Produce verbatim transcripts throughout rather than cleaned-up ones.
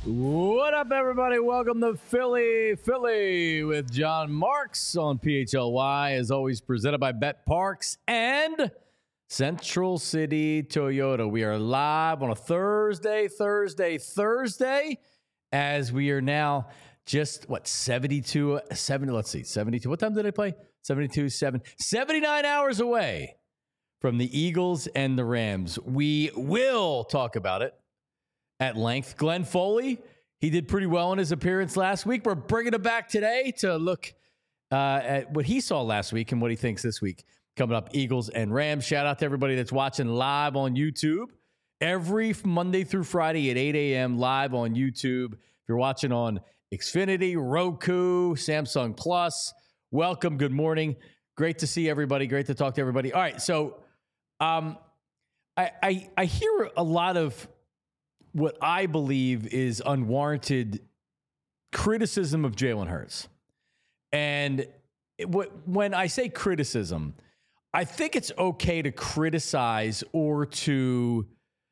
What up, everybody? Welcome to Philly, Philly with John Marks on P H L Y, as always presented by Bet Parks and Central City Toyota. We are live on a Thursday, Thursday, Thursday, as we are now just, what, seventy-two, seventy, let's see, seventy-two. What time did I play? seventy-two, seven, seventy-nine hours away from the Eagles and the Rams. We will talk about it at length. Glenn Foley, he did pretty well in his appearance last week. We're bringing him back today to look uh, at what he saw last week and what he thinks this week. Coming up, Eagles and Rams. Shout out to everybody that's watching live on YouTube every Monday through Friday at eight a.m. live on YouTube. If you're watching on Xfinity, Roku, Samsung Plus, welcome. Good morning. Great to see everybody. Great to talk to everybody. All right, so um, I, I I hear a lot of what I believe is unwarranted criticism of Jalen Hurts. And it, what, when I say criticism, I think it's okay to criticize or to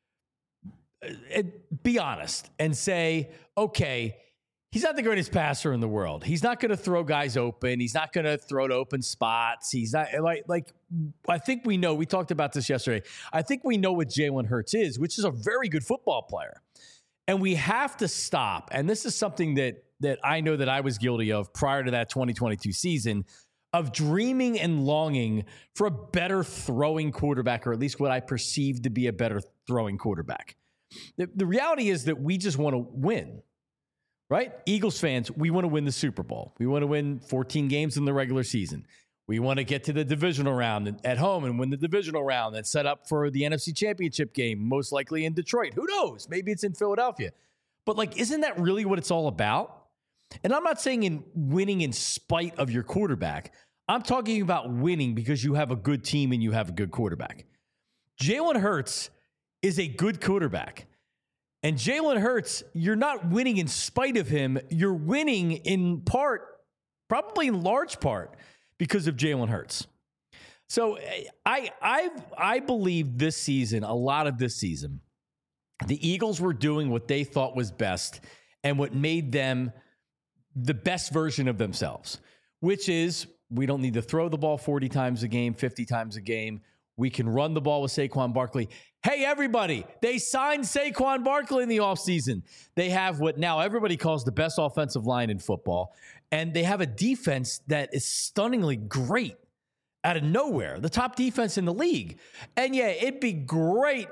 uh, be honest and say, okay, he's not the greatest passer in the world. He's not going to throw guys open. He's not going to throw to open spots. He's not like, like, I think we know, we talked about this yesterday. I think we know what Jalen Hurts is, which is a very good football player. And we have to stop. And this is something that, that I know that I was guilty of prior to that twenty twenty-two season, of dreaming and longing for a better throwing quarterback, or at least what I perceive to be a better throwing quarterback. The, the reality is that we just want to win. Right? Eagles fans, we want to win the Super Bowl. We want to win fourteen games in the regular season. We want to get to the divisional round at home and win the divisional round and set up for the N F C Championship game, most likely in Detroit. Who knows? Maybe it's in Philadelphia. But, like, isn't that really what it's all about? And I'm not saying in winning in spite of your quarterback. I'm talking about winning because you have a good team and you have a good quarterback. Jalen Hurts is a good quarterback. And Jalen Hurts, you're not winning in spite of him. You're winning in part, probably in large part, because of Jalen Hurts. So I I I believe this season, a lot of this season, the Eagles were doing what they thought was best and what made them the best version of themselves, which is we don't need to throw the ball forty times a game, fifty times a game. We can run the ball with Saquon Barkley. Hey, everybody, they signed Saquon Barkley in the offseason. They have what now everybody calls the best offensive line in football, and they have a defense that is stunningly great out of nowhere, the top defense in the league. And, yeah, it'd be great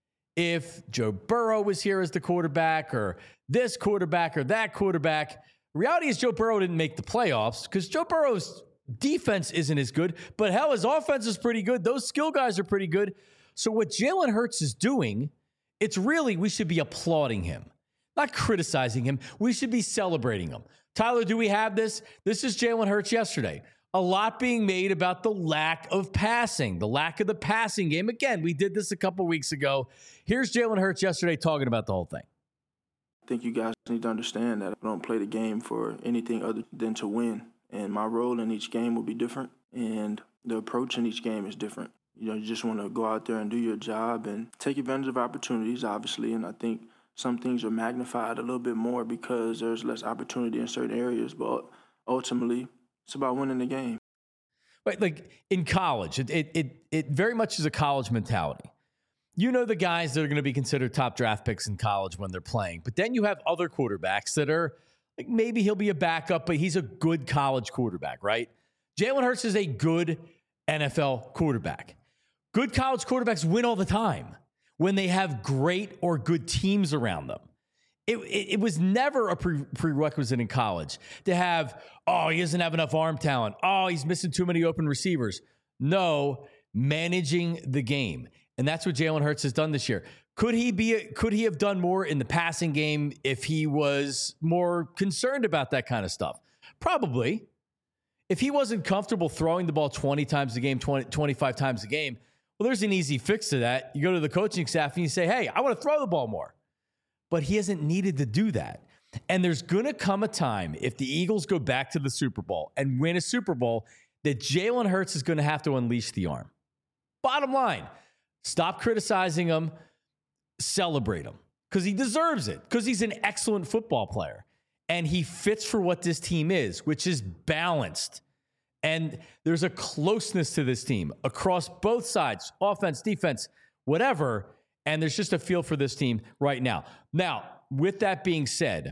if Joe Burrow was here as the quarterback or this quarterback or that quarterback. The reality is Joe Burrow didn't make the playoffs because Joe Burrow's defense isn't as good, but hell, his offense is pretty good. Those skill guys are pretty good. So what Jalen Hurts is doing, it's really, we should be applauding him, not criticizing him. We should be celebrating him. Tyler, do we have this? This is Jalen Hurts yesterday. A lot being made about the lack of passing, the lack of the passing game. Again, we did this a couple weeks ago. Here's Jalen Hurts yesterday talking about the whole thing. I think you guys need to understand that I don't play the game for anything other than to win. And my role in each game will be different, and the approach in each game is different. You know, you just want to go out there and do your job and take advantage of opportunities, obviously, and I think some things are magnified a little bit more because there's less opportunity in certain areas, but ultimately, it's about winning the game. Right, like in college, it it it, it very much is a college mentality. You know the guys that are going to be considered top draft picks in college when they're playing, but then you have other quarterbacks that are like maybe he'll be a backup, but he's a good college quarterback, right? Jalen Hurts is a good N F L quarterback. Good college quarterbacks win all the time when they have great or good teams around them. It, it, it was never a pre- prerequisite in college to have, oh, he doesn't have enough arm talent. Oh, he's missing too many open receivers. No, managing the game. And that's what Jalen Hurts has done this year. Could he be? A, could he have done more in the passing game if he was more concerned about that kind of stuff? Probably. If he wasn't comfortable throwing the ball twenty times a game, twenty, twenty-five times a game, well, there's an easy fix to that. You go to the coaching staff and you say, hey, I want to throw the ball more. But he hasn't needed to do that. And there's going to come a time if the Eagles go back to the Super Bowl and win a Super Bowl that Jalen Hurts is going to have to unleash the arm. Bottom line, stop criticizing him, celebrate him. because he deserves it, because he's an excellent football player. And he fits for what this team is, which is balanced. And there's a closeness to this team across both sides, offense, defense, whatever. And there's just a feel for this team right now. Now, with that being said,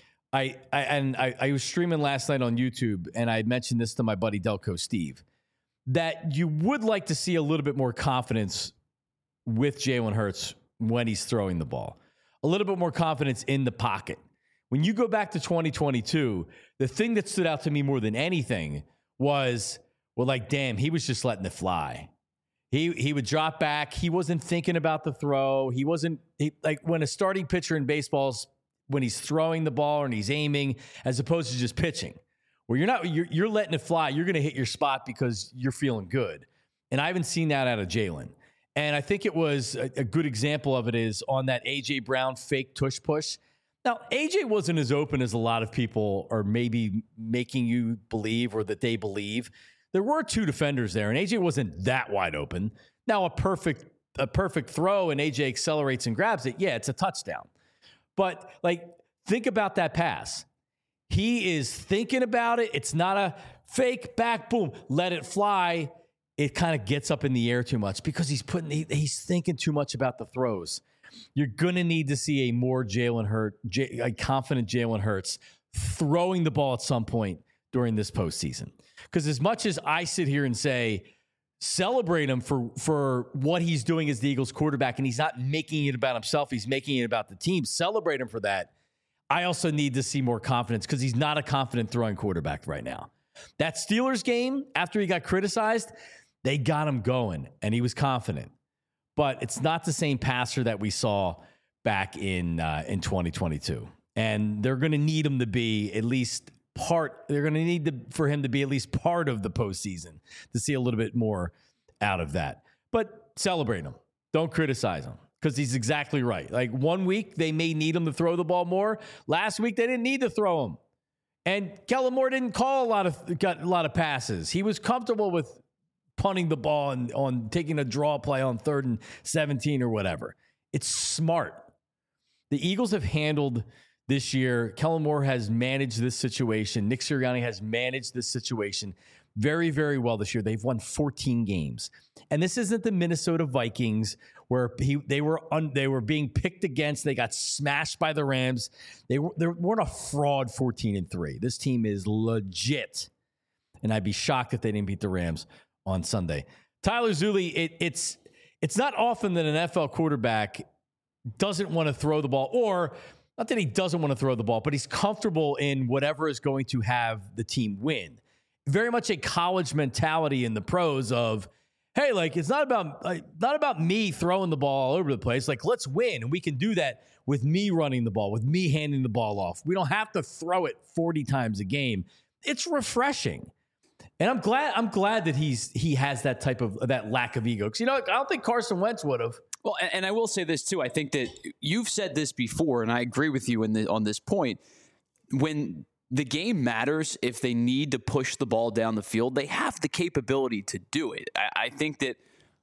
I, I and I, I was streaming last night on YouTube, and I mentioned this to my buddy Delco Steve, that you would like to see a little bit more confidence with Jalen Hurts when he's throwing the ball. A little bit more confidence in the pocket. When you go back to twenty twenty-two, the thing that stood out to me more than anything was, well, like, damn, he was just letting it fly. He he would drop back. He wasn't thinking about the throw. He wasn't he, like when a starting pitcher in baseball's when he's throwing the ball and he's aiming as opposed to just pitching, where you're not you're you're letting it fly. You're going to hit your spot because you're feeling good. And I haven't seen that out of Jalen. And I think it was a, a good example of it is on that A J Brown fake tush push. Now, A J wasn't as open as a lot of people are maybe making you believe or that they believe. There were two defenders there, and A J wasn't that wide open. Now, a perfect a perfect throw, and A J accelerates and grabs it. Yeah, it's a touchdown. But, like, think about that pass. He is thinking about it. It's not a fake back, boom, let it fly. It kind of gets up in the air too much because he's putting he, he's thinking too much about the throws. You're going to need to see a more Jalen Hurts, J, a confident Jalen Hurts throwing the ball at some point during this postseason. Because as much as I sit here and say, celebrate him for, for what he's doing as the Eagles quarterback, and he's not making it about himself, he's making it about the team, celebrate him for that. I also need to see more confidence because he's not a confident throwing quarterback right now. That Steelers game, after he got criticized, they got him going, and he was confident. But it's not the same passer that we saw back in uh, in twenty twenty-two. And they're going to need him to be at least part. They're going to need to, for him to be at least part of the postseason to see a little bit more out of that. But celebrate him. Don't criticize him because he's exactly right. Like one week, they may need him to throw the ball more. Last week, they didn't need to throw him. And Kellen Moore didn't call a lot of got a lot of passes. He was comfortable with punting the ball and on taking a draw play on third and seventeen or whatever. It's smart. The Eagles have handled this year. Kellen Moore has managed this situation. Nick Sirianni has managed this situation very, very well this year. They've won fourteen games. And this isn't the Minnesota Vikings where he, they were un, they were being picked against. They got smashed by the Rams. They, were, they weren't a fraud fourteen and three. This team is legit. And I'd be shocked if they didn't beat the Rams on Sunday. Tyler Zulli, it, it's it's not often that an N F L quarterback doesn't want to throw the ball, or not that he doesn't want to throw the ball, but he's comfortable in whatever is going to have the team win. Very much a college mentality in the pros of, hey, like it's not about like, not about me throwing the ball all over the place. Like, let's win, and we can do that with me running the ball, with me handing the ball off. We don't have to throw it forty times a game. It's refreshing. And I'm glad I'm glad that he's he has that type of that lack of ego. Because, you know, I don't think Carson Wentz would have. Well, and, and I will say this, too. I think that you've said this before, and I agree with you in the, on this point. When the game matters, if they need to push the ball down the field, they have the capability to do it. I, I think that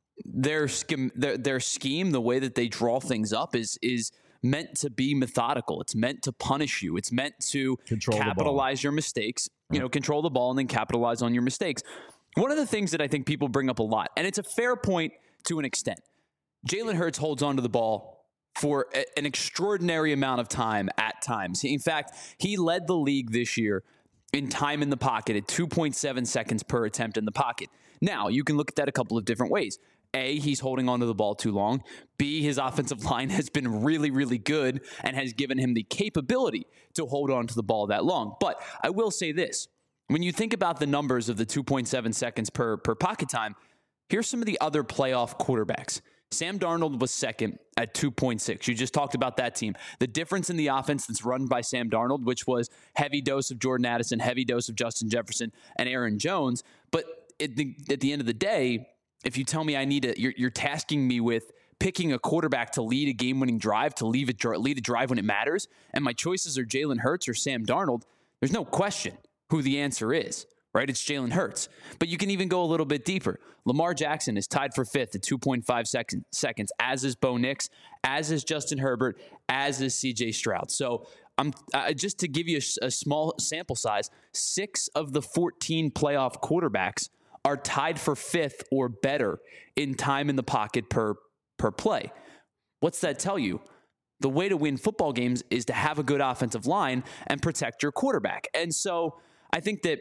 their scheme, their, their scheme, the way that they draw things up is is meant to be methodical. It's meant to punish you. It's meant to Control capitalize your mistakes. You know, control the ball and then capitalize on your mistakes. One of the things that I think people bring up a lot, and it's a fair point to an extent, Jalen Hurts holds onto the ball for a, an extraordinary amount of time at times. In fact, he led the league this year in time in the pocket at two point seven seconds per attempt in the pocket. Now, you can look at that a couple of different ways. A, he's holding onto the ball too long. B, his offensive line has been really, really good and has given him the capability to hold on to the ball that long. But I will say this. When you think about the numbers of the two point seven seconds per, per pocket time, here's some of the other playoff quarterbacks. Sam Darnold was second at two point six. You just talked about that team. The difference in the offense that's run by Sam Darnold, which was heavy dose of Jordan Addison, heavy dose of Justin Jefferson, and Aaron Jones. But at the, at the end of the day, if you tell me I need to, you're, you're tasking me with picking a quarterback to lead a game-winning drive, to lead a, lead a drive when it matters, and my choices are Jalen Hurts or Sam Darnold, there's no question who the answer is, right? It's Jalen Hurts. But you can even go a little bit deeper. Lamar Jackson is tied for fifth at two point five second, seconds, as is Bo Nix, as is Justin Herbert, as is C J Stroud. So I'm uh, just to give you a, a small sample size, six of the fourteen playoff quarterbacks are tied for fifth or better in time in the pocket per per play. What's that tell you? The way to win football games is to have a good offensive line and protect your quarterback. And so I think that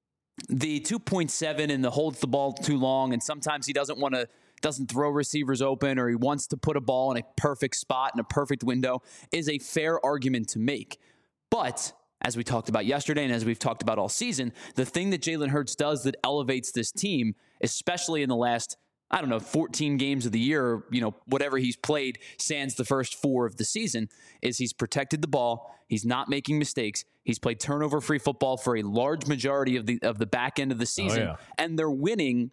the two point seven and the holds the ball too long, and sometimes he doesn't want to, doesn't throw receivers open, or he wants to put a ball in a perfect spot in a perfect window, is a fair argument to make. But as we talked about yesterday and as we've talked about all season, the thing that Jalen Hurts does that elevates this team, especially in the last, I don't know, fourteen games of the year, you know, whatever he's played, sans the first four of the season, is he's protected the ball. He's not making mistakes. He's played turnover-free football for a large majority of the of the back end of the season. Oh, yeah. And they're winning,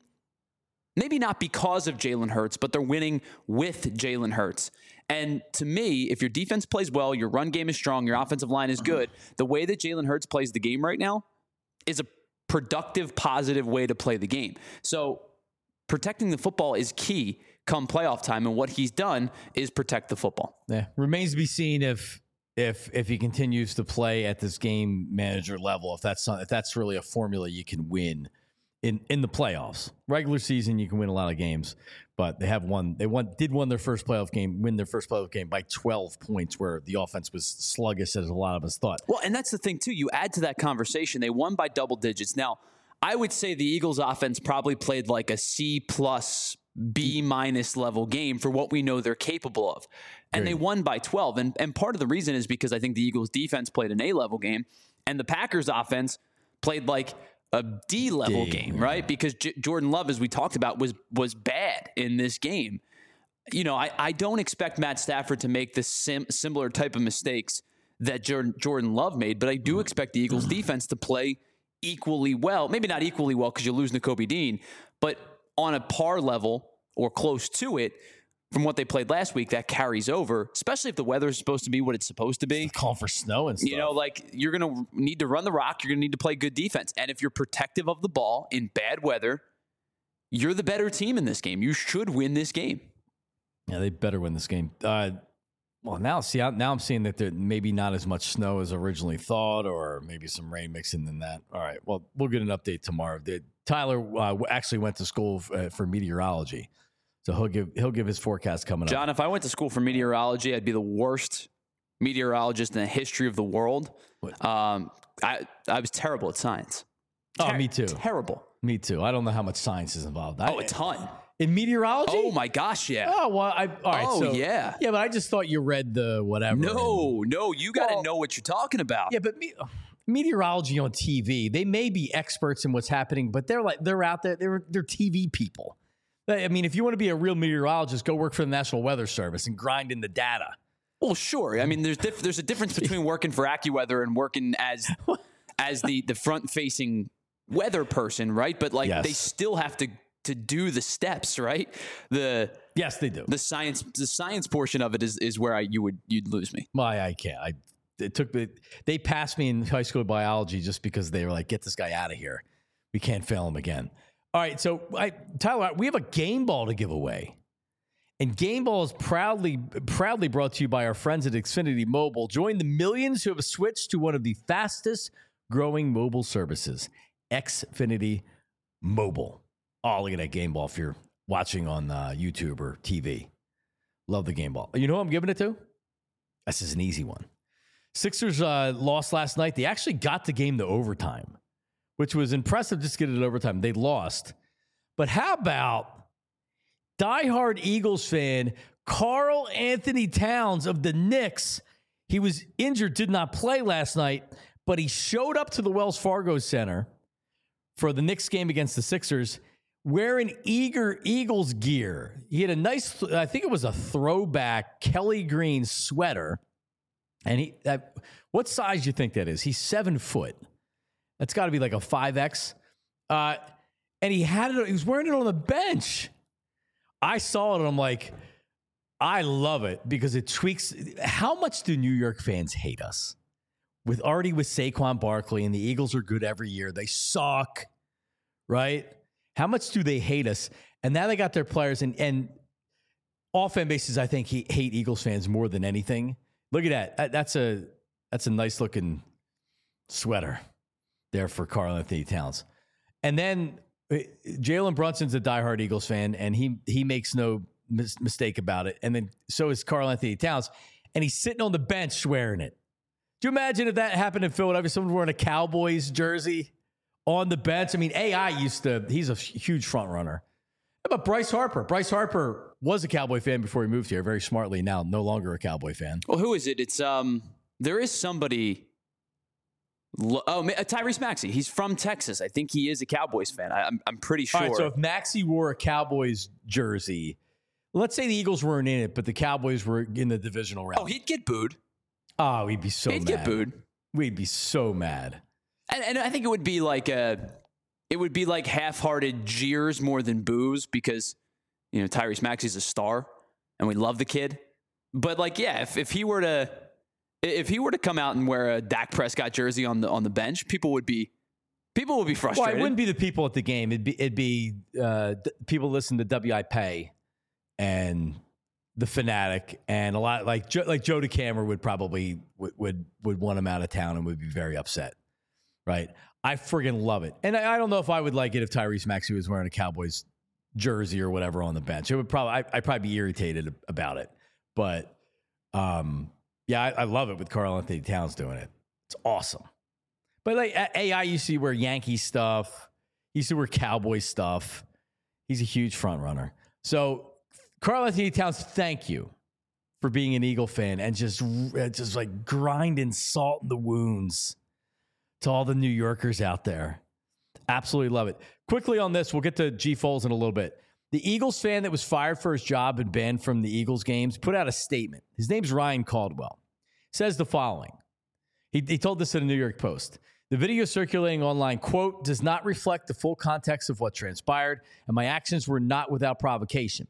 maybe not because of Jalen Hurts, but they're winning with Jalen Hurts. And to me, if your defense plays well, your run game is strong, your offensive line is good, the way that Jalen Hurts plays the game right now is a productive, positive way to play the game. So protecting the football is key come playoff time, and what he's done is protect the football. Yeah, remains to be seen if if if he continues to play at this game manager level. If that's if that's really a formula you can win in in the playoffs. Regular season, you can win a lot of games, but they have won. They won did win their first playoff game, win their first playoff game by twelve points, where the offense was sluggish as a lot of us thought. Well, and that's the thing too. You add to that conversation, they won by double digits. Now, I would say the Eagles offense probably played like a C plus, B minus level game for what we know they're capable of. And Great. They won by twelve. And, and part of the reason is because I think the Eagles defense played an A level game and the Packers offense played like a D level D, game, yeah. right? Because J- Jordan Love, as we talked about, was, was bad in this game. You know, I, I don't expect Matt Stafford to make the sim- similar type of mistakes that Jordan, Jordan Love made, but I do expect the Eagles defense to play equally well, maybe not equally well because you lose Nakobe Dean, but on a par level or close to it from what they played last week, that carries over, especially if the weather is supposed to be what it's supposed to be. Call for snow and stuff. You know, like you're going to need to run the rock. You're going to need to play good defense. And if you're protective of the ball in bad weather, you're the better team in this game. You should win this game. Yeah, they better win this game. Uh, Well, now see, now I'm seeing that there maybe not as much snow as originally thought, or maybe some rain mixing in that. All right, well, we'll get an update tomorrow. Tyler uh, actually went to school f- uh, for meteorology, so he'll give he'll give his forecast coming John, up. John, if I went to school for meteorology, I'd be the worst meteorologist in the history of the world. Um, I I was terrible at science. Ter- oh, me too. Terrible. Me too. I don't know how much science is involved. I, oh, a ton. In meteorology? Oh, my gosh, yeah. Oh, well, I, all right. Oh, so, yeah. Yeah, but I just thought you read the whatever. No, and, no, you got to well, know what you're talking about. Yeah, but me, meteorology on T V, they may be experts in what's happening, but they're like, they're out there, they're, they're T V people. I mean, if you want to be a real meteorologist, go work for the National Weather Service and grind in the data. Well, sure. I mean, there's diff- there's a difference between working for AccuWeather and working as as the, the front-facing weather person, right? But, like, yes. they still have to to do the steps, right? The yes, they do. The science, the science portion of it is, is where I you would you'd lose me. Well, I, I can't. I it took the they passed me in high school biology just because they were like, get this guy out of here. We can't fail him again. All right, so I, Tyler, we have a game ball to give away, and Game Ball is proudly proudly brought to you by our friends at Xfinity Mobile. Join the millions who have switched to one of the fastest growing mobile services, Xfinity Mobile. Oh, look at that game ball if you're watching on uh, YouTube or T V. Love the game ball. You know who I'm giving it to? This is an easy one. Sixers uh, lost last night. They actually got the game to overtime, which was impressive just to get it to overtime. They lost. But how about diehard Eagles fan Karl Anthony Towns of the Knicks? He was injured, did not play last night, but he showed up to the Wells Fargo Center for the Knicks game against the Sixers wearing eager Eagles gear. He had a nice, I think it was a throwback Kelly Green sweater. And he, that, what size do you think that is? He's seven foot. That's got to be like a five X. Uh, and he had it, he was wearing it on the bench. I saw it and I'm like, I love it because it tweaks. How much do New York fans hate us? With already with Saquon Barkley, and the Eagles are good every year. They suck. right? How much do they hate us? And now they got their players, and, and all fan bases, I think, he, hate Eagles fans more than anything. Look at that. That's a that's a nice looking sweater there for Karl-Anthony Towns. And then Jalen Brunson's a diehard Eagles fan, and he he makes no mis- mistake about it. And then so is Karl-Anthony Towns, and he's sitting on the bench swearing it. Do you imagine if that happened in Philadelphia? Someone wearing a Cowboys jersey on the bench. I mean, A I used to, he's a huge front runner. How about Bryce Harper? Bryce Harper was a Cowboy fan before he moved here, very smartly now, no longer a Cowboy fan. Well, who is it? It's, um, there is somebody, oh, Tyrese Maxey. He's from Texas. I think he is a Cowboys fan. I, I'm, I'm pretty sure. All right, so if Maxey wore a Cowboys jersey, let's say the Eagles weren't in it, but the Cowboys were in the divisional round. Oh, he'd get booed. Oh, we'd be so he'd mad. He'd get booed. We'd be so mad. And, and I think it would be like a, it would be like half-hearted jeers more than boos because, you know, Tyrese Maxey's a star and we love the kid. But like, yeah, if, if he were to, if he were to come out and wear a Dak Prescott jersey on the on the bench, people would be, people would be frustrated. Well, it wouldn't be the people at the game. It'd be it'd be uh, d- people listen to W I P and the Fanatic and a lot like Joe, like Joe DeCamera would probably would, would would want him out of town and would be very upset. Right? I friggin' love it. And I, I don't know if I would like it if Tyrese Maxey was wearing a Cowboys jersey or whatever on the bench. It would probably, I, I'd probably be irritated about it. But um, yeah, I, I love it with Karl-Anthony Towns doing it. It's awesome. But like A I used to wear Yankee stuff. He used to wear Cowboy stuff. He's a huge front runner. So Karl-Anthony Towns, thank you for being an Eagle fan and just, just like grinding salt in the wounds to all the New Yorkers out there. Absolutely love it. Quickly on this, we'll get to G Foles in a little bit. The Eagles fan that was fired for his job and banned from the Eagles games put out a statement. His name's Ryan Caldwell. Says the following. He, he told this in the New York Post. The video circulating online, quote, does not reflect the full context of what transpired, and my actions were not without provocation.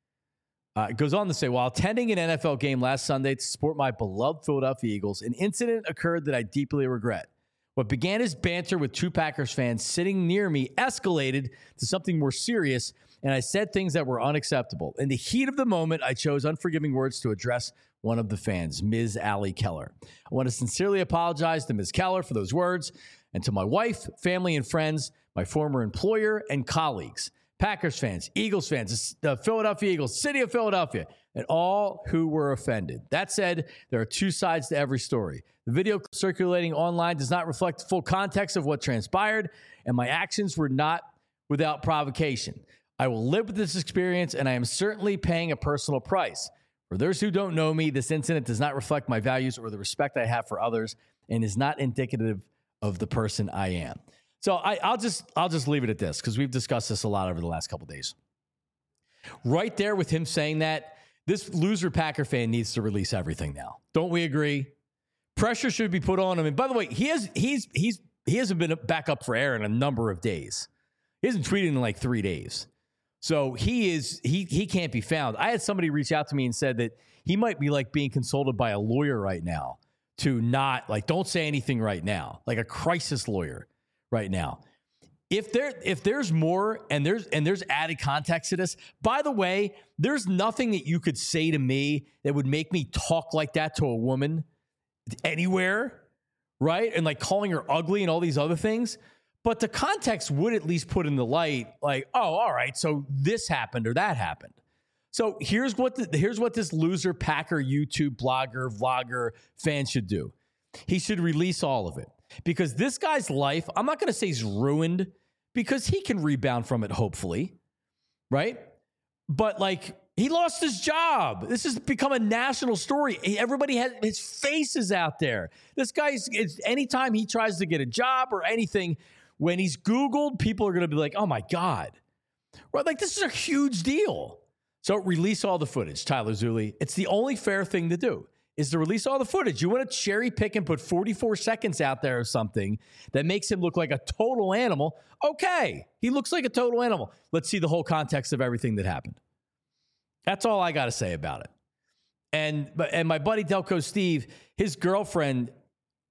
Uh, it goes on to say, while attending an N F L game last Sunday to support my beloved Philadelphia Eagles, an incident occurred that I deeply regret. What began as banter with two Packers fans sitting near me escalated to something more serious, and I said things that were unacceptable. In the heat of the moment, I chose unforgiving words to address one of the fans, Miz Allie Keller. I want to sincerely apologize to Miz Keller for those words, and to my wife, family, and friends, my former employer, and colleagues, Packers fans, Eagles fans, the Philadelphia Eagles, City of Philadelphia, and all who were offended. That said, there are two sides to every story. The video circulating online does not reflect the full context of what transpired, and my actions were not without provocation. I will live with this experience, and I am certainly paying a personal price. For those who don't know me, this incident does not reflect my values or the respect I have for others, and is not indicative of the person I am. So I, I'll just I'll just leave it at this because we've discussed this a lot over the last couple of days. Right there with him saying that, this loser Packer fan needs to release everything now. Don't we agree? Pressure should be put on him. And by the way, he has he's he's he hasn't been back up for air in a number of days. He hasn't tweeted in like three days. So he is he he can't be found. I had somebody reach out to me and said that he might be like being consulted by a lawyer right now to not like don't say anything right now, like a crisis lawyer right now. If there if there's more and there's and there's added context to this, by the way, there's nothing that you could say to me that would make me talk like that to a woman anywhere, right? And like calling her ugly and all these other things. But the context would at least put in the light, like, oh, all right, so this happened or that happened. So here's what the, here's what this loser Packer YouTube blogger, vlogger fan should do. He should release all of it. Because this guy's life, I'm not going to say he's ruined, because he can rebound from it, hopefully, right? But like, he lost his job. This has become a national story. Everybody has his faces out there. This guy's, it's, anytime he tries to get a job or anything, when he's Googled, people are going to be like, oh my God. Right? Like, this is a huge deal. So release all the footage, Tyler Zulli. It's the only fair thing to do, is to release all the footage. You want to cherry pick and put forty-four seconds out there of something that makes him look like a total animal. Okay, he looks like a total animal. Let's see the whole context of everything that happened. That's all I got to say about it. And and my buddy Delco Steve, his girlfriend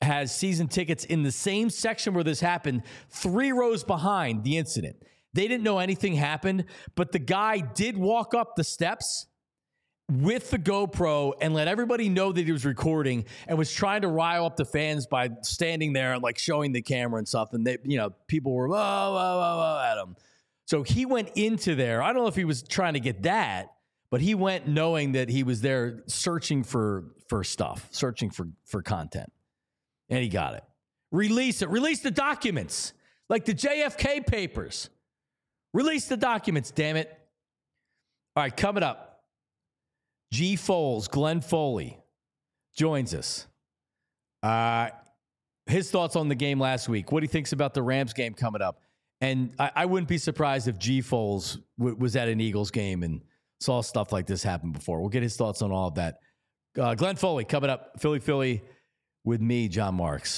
has season tickets in the same section where this happened, three rows behind the incident. They didn't know anything happened, but the guy did walk up the steps with the GoPro and let everybody know that he was recording and was trying to rile up the fans by standing there and like showing the camera and stuff. And they, you know, people were, whoa, whoa, whoa, whoa, at him. So he went into there. I don't know if he was trying to get that, but he went knowing that he was there searching for, for stuff, searching for, for content. And he got it. Release it. Release the documents. Like the J F K papers. Release the documents, damn it. All right, coming up. G. Foles, Glenn Foley, joins us. Uh, his thoughts on the game last week. What he thinks about the Rams game coming up. And I, I wouldn't be surprised if G. Foles w- was at an Eagles game and saw stuff like this happen before. We'll get his thoughts on all of that. Uh, Glenn Foley coming up. Philly, Philly with me, John Marks.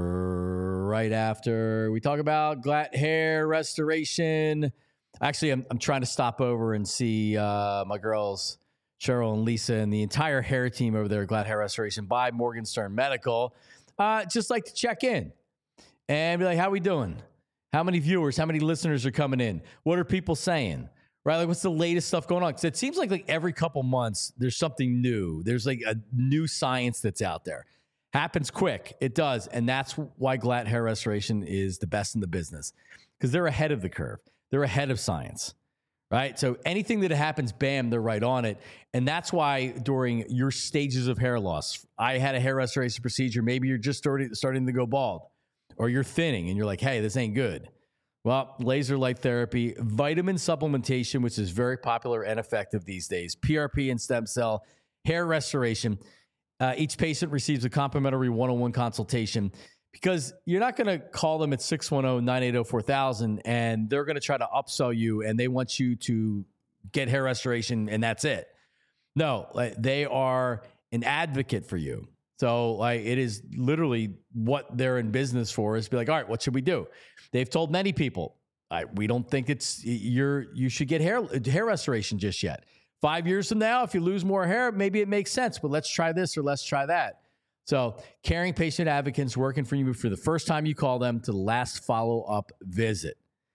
Right after we talk about Glatt hair restoration. Actually, I'm, I'm trying to stop over and see uh, my girls, Cheryl and Lisa, and the entire hair team over there at Glatt Hair Restoration by Morgenstern Medical. Uh, just like to check in and be like, how we doing? How many viewers, how many listeners are coming in? What are people saying? Right? Like, what's the latest stuff going on? Because it seems like, like every couple months, there's something new. There's like a new science that's out there. Happens quick. It does. And that's why Glatt Hair Restoration is the best in the business, because they're ahead of the curve. They're ahead of science. Right? So anything that happens, bam, they're right on it. And that's why during your stages of hair loss, I had a hair restoration procedure. Maybe you're just starting, starting to go bald, or you're thinning and you're like, hey, this ain't good. Well, laser light therapy, vitamin supplementation, which is very popular and effective these days, P R P and stem cell, hair restoration. Uh, each patient receives a complimentary one-on-one consultation, because you're not going to call them at six one zero, nine eight zero, four thousand and they're going to try to upsell you and they want you to get hair restoration and that's it. No, like, they are an advocate for you. So like, it is literally what they're in business for, is be like, all right, what should we do? They've told many people, I, we don't think it's you're you should get hair hair restoration just yet. Five years from now, if you lose more hair, maybe it makes sense, but let's try this or let's try that. So caring patient advocates working for you for the first time you call them to the last follow-up visit.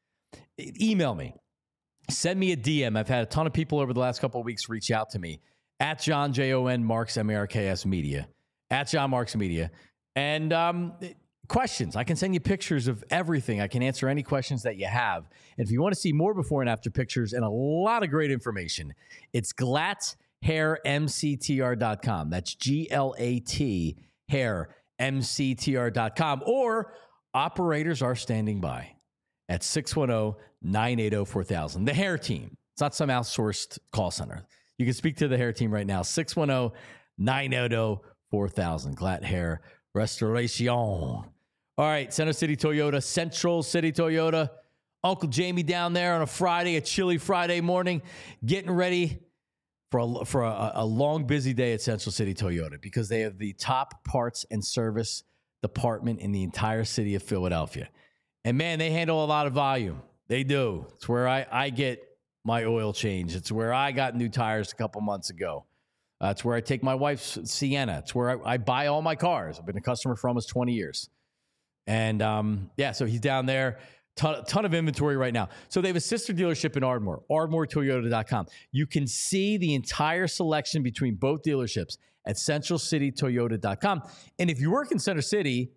Email me. Send me a D M. I've had a ton of people over the last couple of weeks reach out to me at John, J O N, Marks, M A R K S Media, at John Marks Media. And um, questions. I can send you pictures of everything. I can answer any questions that you have. And if you want to see more before and after pictures and a lot of great information, it's Glatt hair m c t r dot com. That's G L A T hair m c t r dot com. Or operators are standing by at six one zero, nine eight zero, four thousand. The hair team. It's not some outsourced call center. You can speak to the hair team right now. six one zero, nine eight zero, four thousand. Glatt Hair Restoration. All right. Center City Toyota, Central City Toyota. Uncle Jamie down there on a Friday, a chilly Friday morning, getting ready for a, for a, a long, busy day at Central City Toyota, because they have the top parts and service department in the entire city of Philadelphia. And, man, they handle a lot of volume. They do. It's where I, I get my oil change. It's where I got new tires a couple months ago. Uh, it's where I take my wife's Sienna. It's where I, I buy all my cars. I've been a customer for almost twenty years. And, um, yeah, so he's down there. Ton, ton of inventory right now. So they have a sister dealership in Ardmore, ardmore toyota dot com. You can see the entire selection between both dealerships at central city toyota dot com. And if you work in Center City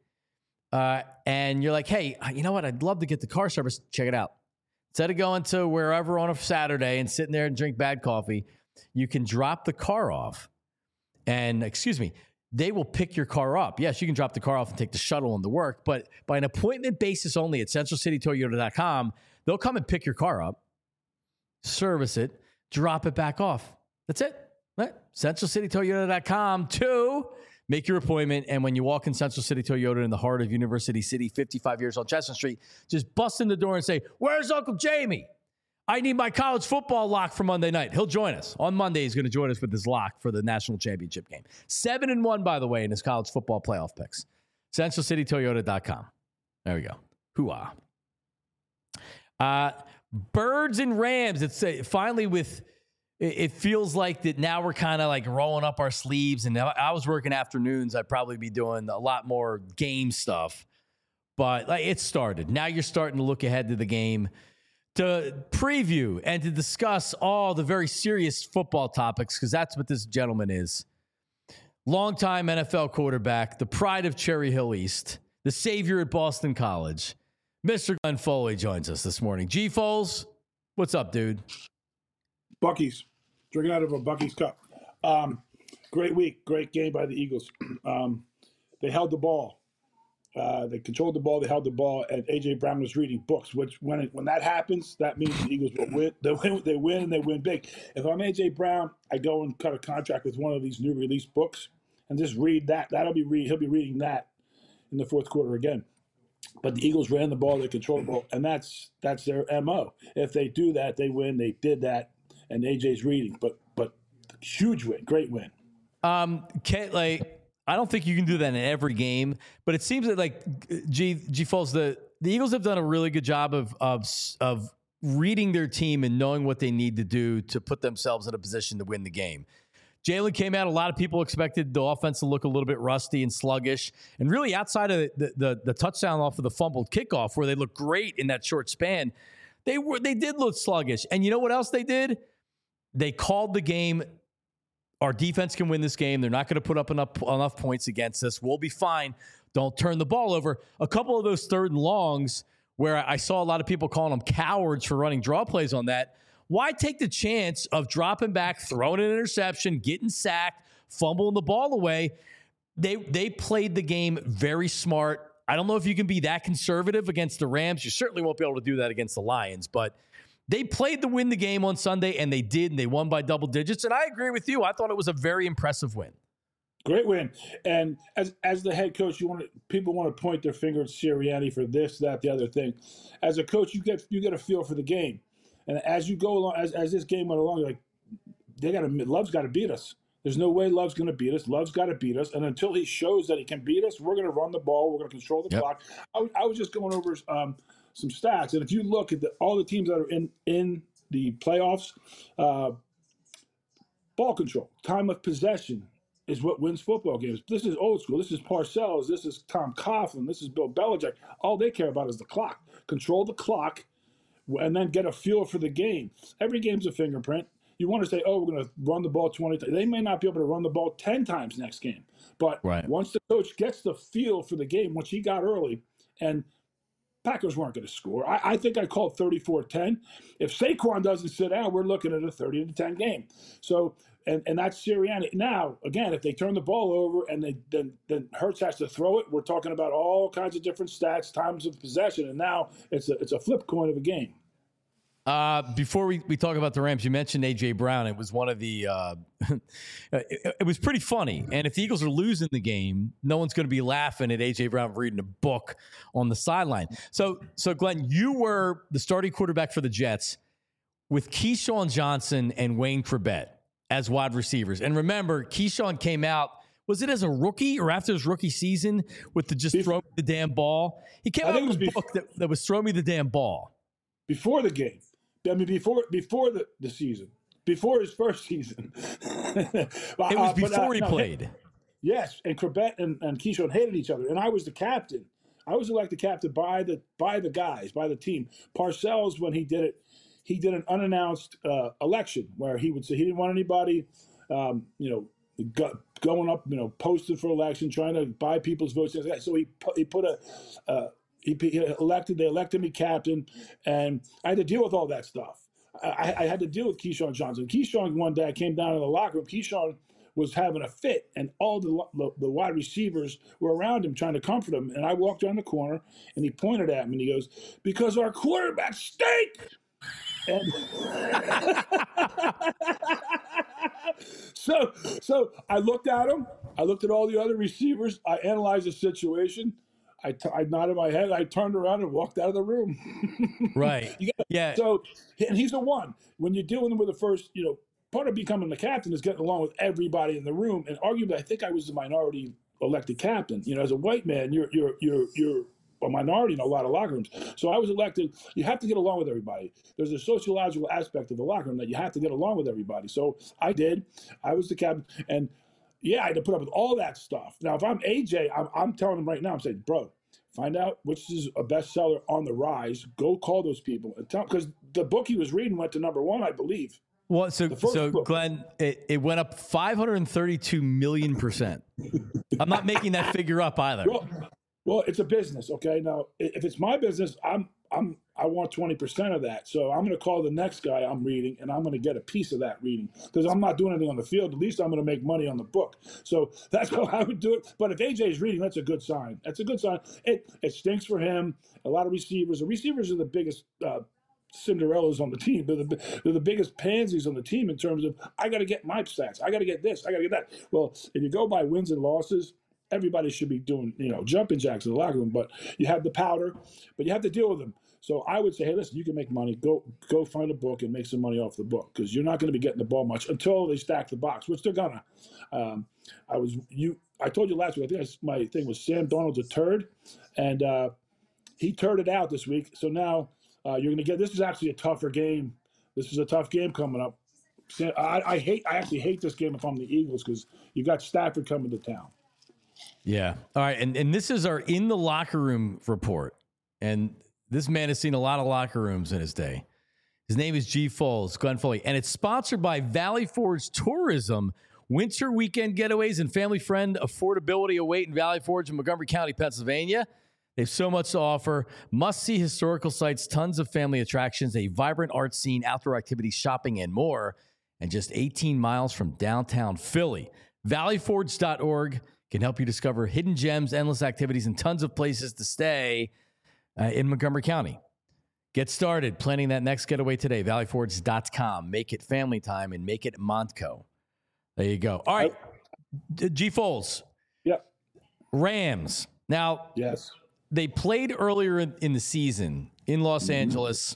uh, and you're like, hey, you know what? I'd love to get the car service. Check it out. Instead of going to wherever on a Saturday and sitting there and drink bad coffee, you can drop the car off and, excuse me, they will pick your car up. Yes, you can drop the car off and take the shuttle into work, but by an appointment basis only at central city toyota dot com, they'll come and pick your car up, service it, drop it back off. That's it. Right? central city toyota dot com to make your appointment. And when you walk in Central City Toyota in the heart of University City, fifty-five years on Chestnut Street, just bust in the door and say, where's Uncle Jamie? I need my college football lock for Monday night. He'll join us. On Monday, he's going to join us with his lock for the national championship game. Seven and one, by the way, in his college football playoff picks. central city toyota dot com. There we go. Hoo-ah. Uh, Birds and Rams. It's uh, finally with it, it feels like that now we're kind of like rolling up our sleeves. And I, I was working afternoons. I'd probably be doing a lot more game stuff. But like, it started. Now you're starting to look ahead to the game, to preview and to discuss all the very serious football topics, because that's what this gentleman is. Longtime N F L quarterback, the pride of Cherry Hill East, the savior at Boston College, Mister Glenn Foley joins us this morning. G. Foles, what's up, dude? Buc-ee's. Drinking out of a Buc-ee's cup. Um, great week. Great game by the Eagles. Um, they held the ball. Uh, they controlled the ball. They held the ball, and A J. Brown was reading books. Which, when it, when that happens, that means the Eagles will win. They win. They win, and they win big. If I'm A J. Brown, I go and cut a contract with one of these new release books and just read that. That'll be read. He'll be reading that in the fourth quarter again. But the Eagles ran the ball. They controlled the ball, and that's that's their M O. If they do that, they win. They did that, and A J's reading. But but huge win, great win. Um, Kate, like. I don't think you can do that in every game, but it seems that like G G Foles, the, the Eagles have done a really good job of, of, of reading their team and knowing what they need to do to put themselves in a position to win the game. Jalen came out. A lot of people expected the offense to look a little bit rusty and sluggish, and really outside of the, the, the touchdown off of the fumbled kickoff where they looked great in that short span, they were, they did look sluggish. And you know what else they did? They called the game. Our defense can win this game. They're not going to put up enough, enough points against us. We'll be fine. Don't turn the ball over. A couple of those third and longs where I saw a lot of people calling them cowards for running draw plays on that. Why take the chance of dropping back, throwing an interception, getting sacked, fumbling the ball away? They they played the game very smart. I don't know if you can be that conservative against the Rams. You certainly won't be able to do that against the Lions, but they played to win the game on Sunday, and they did, and they won by double digits. And I agree with you. I thought it was a very impressive win. Great win. And as as the head coach, you want to, people want to point their finger at Sirianni for this, that, the other thing. As a coach, you get you get a feel for the game. And as you go along, as, as this game went along, you're like, they got to, Love's got to beat us. There's no way Love's going to beat us. Love's got to beat us. And until he shows that he can beat us, we're going to run the ball. We're going to control the yep. clock. I, I was just going over um, some stats. And if you look at the, all the teams that are in, in the playoffs, uh, ball control, time of possession is what wins football games. This is old school. This is Parcells. This is Tom Coughlin. This is Bill Belichick. All they care about is the clock. Control the clock and then get a feel for the game. Every game's a fingerprint. You want to say, oh, we're going to run the ball twenty times. They may not be able to run the ball ten times next game. But right. once the coach gets the feel for the game, which he got early, and Packers weren't going to score. I, I think I called thirty-four ten. If Saquon doesn't sit down, we're looking at a thirty to ten game. So, and, and that's Sirianni. Now, again, if they turn the ball over and they then, then Hurts has to throw it, we're talking about all kinds of different stats, times of possession, and now it's a, it's a flip coin of a game. Uh, before we, we talk about the Rams, you mentioned A J. Brown. It was one of the uh, it, it was pretty funny. And if the Eagles are losing the game, no one's going to be laughing at A J. Brown reading a book on the sideline. So, so Glenn, you were the starting quarterback for the Jets with Keyshawn Johnson and Wayne Chrebet as wide receivers. And remember, Keyshawn came out, was it as a rookie or after his rookie season with the just throw me the damn ball? He came I out with a book that, that was throw me the damn ball. Before the game. I mean, before before the, the season, before his first season. It was before uh, but, uh, he no, played. Yes, and Chrebet and, and Keyshawn hated each other, and I was the captain. I was elected captain by the by the guys, by the team. Parcells, when he did it, he did an unannounced uh, election where he would say he didn't want anybody, um, you know, go, going up, you know, posting for election, trying to buy people's votes. So he put, he put a. Uh, He, he elected. They elected me captain, and I had to deal with all that stuff. I, I had to deal with Keyshawn Johnson. Keyshawn one day I came down in the locker room. Keyshawn was having a fit, and all the, the the wide receivers were around him trying to comfort him. And I walked around the corner, and he pointed at me, and he goes, "Because our quarterback stink." And so, so I looked at him. I looked at all the other receivers. I analyzed the situation. I, t- I nodded my head. I turned around and walked out of the room. Right. gotta, yeah. So, and he's the one. When you're dealing with the first, you know, part of becoming the captain is getting along with everybody in the room. And arguably, I think I was the minority elected captain. You know, as a white man, you're you're you're you're a minority in a lot of locker rooms. So I was elected. You have to get along with everybody. There's a sociological aspect of the locker room that you have to get along with everybody. So I did. I was the captain. And yeah, I had to put up with all that stuff. Now, if I'm A J, I'm, I'm telling him right now, I'm saying, bro, find out which is a bestseller on the rise. Go call those people and tell, because the book he was reading went to number one, I believe. Well, so, so book. Glenn, it, it went up five hundred thirty-two million percent. I'm not making that figure up either. Well, well, it's a business, okay? Now, if it's my business, I'm I'm I want twenty percent of that. So I'm going to call the next guy I'm reading, and I'm going to get a piece of that reading because I'm not doing anything on the field. At least I'm going to make money on the book. So that's how I would do it. But if A J is reading, that's a good sign. That's a good sign. It it stinks for him. A lot of receivers. The receivers are the biggest uh, Cinderellas on the team. They're the, they're the biggest pansies on the team in terms of, I got to get my stats. I got to get this. I got to get that. Well, if you go by wins and losses, everybody should be doing, you know, jumping jacks in the locker room, but you have the powder, but you have to deal with them. So I would say, hey, listen, you can make money. Go go find a book and make some money off the book because you're not going to be getting the ball much until they stack the box, which they're gonna. Um, I was you. I told you last week. I think I, my thing was Sam Darnold's a turd, and uh, he turded out this week. So now uh, you're going to get. This is actually a tougher game. This is a tough game coming up. I, I hate. I actually hate this game if I'm the Eagles because you got Stafford coming to town. Yeah. All right. And and this is our in the locker room report. And this man has seen a lot of locker rooms in his day. His name is G. Foles, Glenn Foley. And it's sponsored by Valley Forge Tourism. Winter weekend getaways and family friend affordability await in Valley Forge in Montgomery County, Pennsylvania. They have so much to offer. Must-see historical sites, tons of family attractions, a vibrant art scene, outdoor activities, shopping, and more. And just eighteen miles from downtown Philly. valley forge dot org can help you discover hidden gems, endless activities, and tons of places to stay uh, in Montgomery County. Get started planning that next getaway today. valley forge dot com. Make it family time and make it Montco. There you go. All right. G. Foles. Yep. Rams. Now, yes, they played earlier in, in the season in Los mm-hmm. Angeles.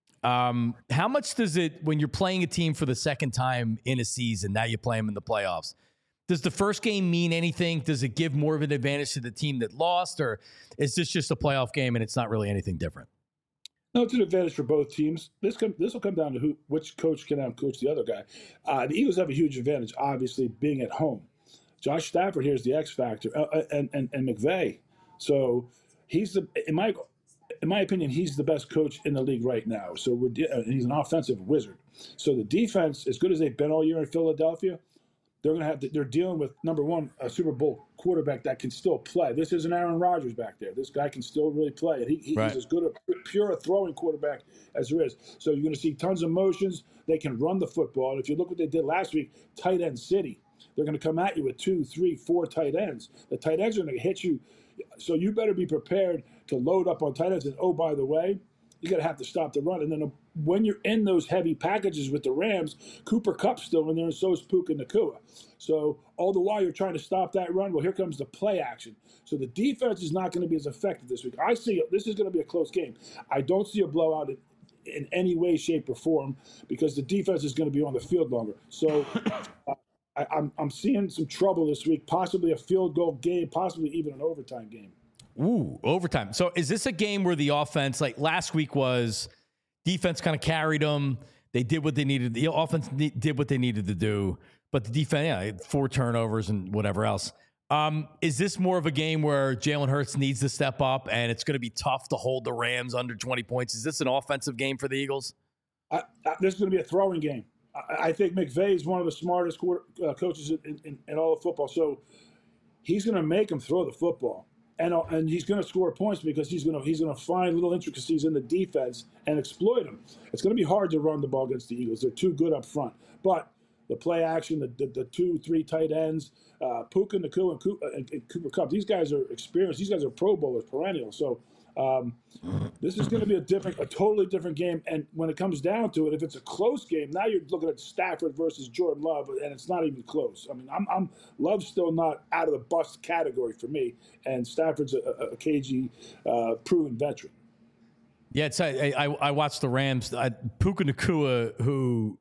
Um, how much does it, when you're playing a team for the second time in a season, now you play them in the playoffs, does the first game mean anything? Does it give more of an advantage to the team that lost, or is this just a playoff game and it's not really anything different? No, it's an advantage for both teams. This come, this will come down to who, which coach can outcoach the other guy. Uh, the Eagles have a huge advantage, obviously, being at home. Josh Stafford here is the X factor, uh, and, and and McVay. So he's the in my in my opinion, he's the best coach in the league right now. So we're uh, he's an offensive wizard. So the defense, as good as they've been all year in Philadelphia, they're going to have to, they're dealing with, number one, a Super Bowl quarterback that can still play. This isn't Aaron Rodgers back there. This guy can still really play. He, he, right. He's as good a pure throwing quarterback as there is. So you're going to see tons of motions. They can run the football. And if you look what they did last week, tight end city. They're going to come at you with two, three, four tight ends. The tight ends are going to hit you. So you better be prepared to load up on tight ends. And, oh, by the way, you're going to have to stop the run. And then when you're in those heavy packages with the Rams, Cooper Kupp's still in there, and so is Puka Nacua. So all the while you're trying to stop that run, well, here comes the play action. So the defense is not going to be as effective this week. I see this is going to be a close game. I don't see a blowout in, in any way, shape, or form because the defense is going to be on the field longer. So uh, I, I'm, I'm seeing some trouble this week, possibly a field goal game, possibly even an overtime game. Ooh, overtime. So is this a game where the offense, like last week was, defense kind of carried them. They did what they needed. The offense did what they needed to do, but the defense, yeah, four turnovers and whatever else. Um, is this more of a game where Jalen Hurts needs to step up and it's going to be tough to hold the Rams under twenty points? Is this an offensive game for the Eagles? I, I, this is going to be a throwing game. I, I think McVay is one of the smartest quarter, uh, coaches in, in, in all of football. So he's going to make them throw the football. And, and he's going to score points because he's going to he's going to find little intricacies in the defense and exploit them. It's going to be hard to run the ball against the Eagles. They're too good up front. But the play action, the the, the two, three tight ends, uh, Puka Nacua and, Cooper, and, and Cooper Kupp, these guys are experienced. These guys are Pro Bowlers, perennial. So um, this is going to be a different, a totally different game. And when it comes down to it, if it's a close game, now you're looking at Stafford versus Jordan Love, and it's not even close. I mean, I'm, I'm Love's still not out of the bust category for me, and Stafford's a, a, a cagey, uh, proven veteran. Yeah, it's, I, I I watched the Rams. I, Puka Nacua, who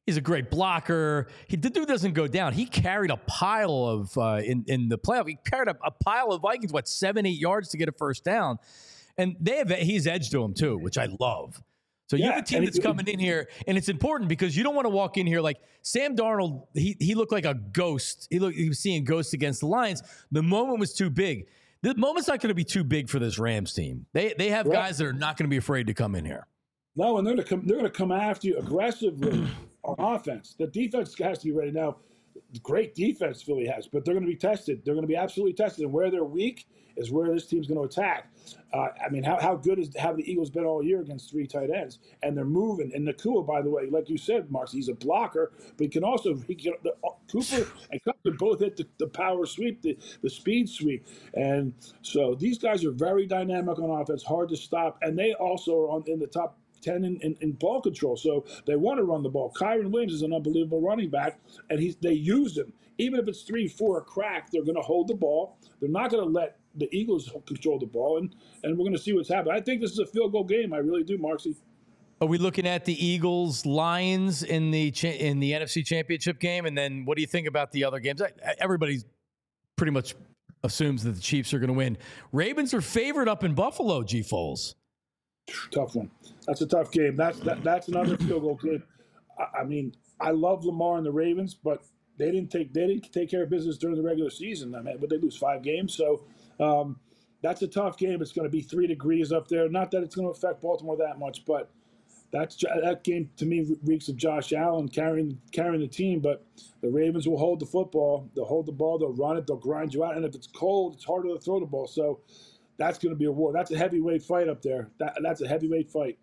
He's a great blocker. He, the dude doesn't go down. He carried a pile of, uh, in, in the playoff, he carried a, a pile of Vikings, what, seven, eight yards to get a first down. And they have, he's edge to him too, which I love. So yeah, you have a team that's coming in here, and it's important because you don't want to walk in here like Sam Darnold. He he looked like a ghost. He looked he was seeing ghosts against the Lions. The moment was too big. The moment's not going to be too big for this Rams team. They they have right. guys that are not going to be afraid to come in here. No, and they're going to come. They're going to come after you aggressively on offense. The defense has to be ready now. Great defense Philly has, but they're going to be tested. They're going to be absolutely tested, and where they're weak is where this team's going to attack. Uh, I mean, how, how good is have the Eagles been all year against three tight ends? And they're moving. And Nakua, by the way, like you said, Marks, he's a blocker, but he can also he can, the, uh, Cooper and Cup can both hit the, the power sweep, the, the speed sweep. And so these guys are very dynamic on offense, hard to stop, and they also are on in the top ten in, in, in ball control. So they want to run the ball. Kyron Williams is an unbelievable running back, and he's they use him. Even if it's three, four a crack, they're going to hold the ball. They're not going to let the Eagles control the ball, and, and we're going to see what's happening. I think this is a field goal game. I really do, Marksy. Are we looking at the Eagles Lions in the cha- in the N F C Championship game? And then what do you think about the other games? Everybody pretty much assumes that the Chiefs are going to win. Ravens are favored up in Buffalo, G. Foles. Tough one. That's a tough game. That's that, that's another field goal game. I, I mean, I love Lamar and the Ravens, but they didn't take they didn't take care of business during the regular season. I mean, but they lose five games, so um, that's a tough game. It's going to be three degrees up there. Not that it's going to affect Baltimore that much, but that's that game to me reeks of Josh Allen carrying carrying the team. But the Ravens will hold the football. They'll hold the ball. They'll run it. They'll grind you out. And if it's cold, it's harder to throw the ball. So that's going to be a war. That's a heavyweight fight up there. That, that's a heavyweight fight.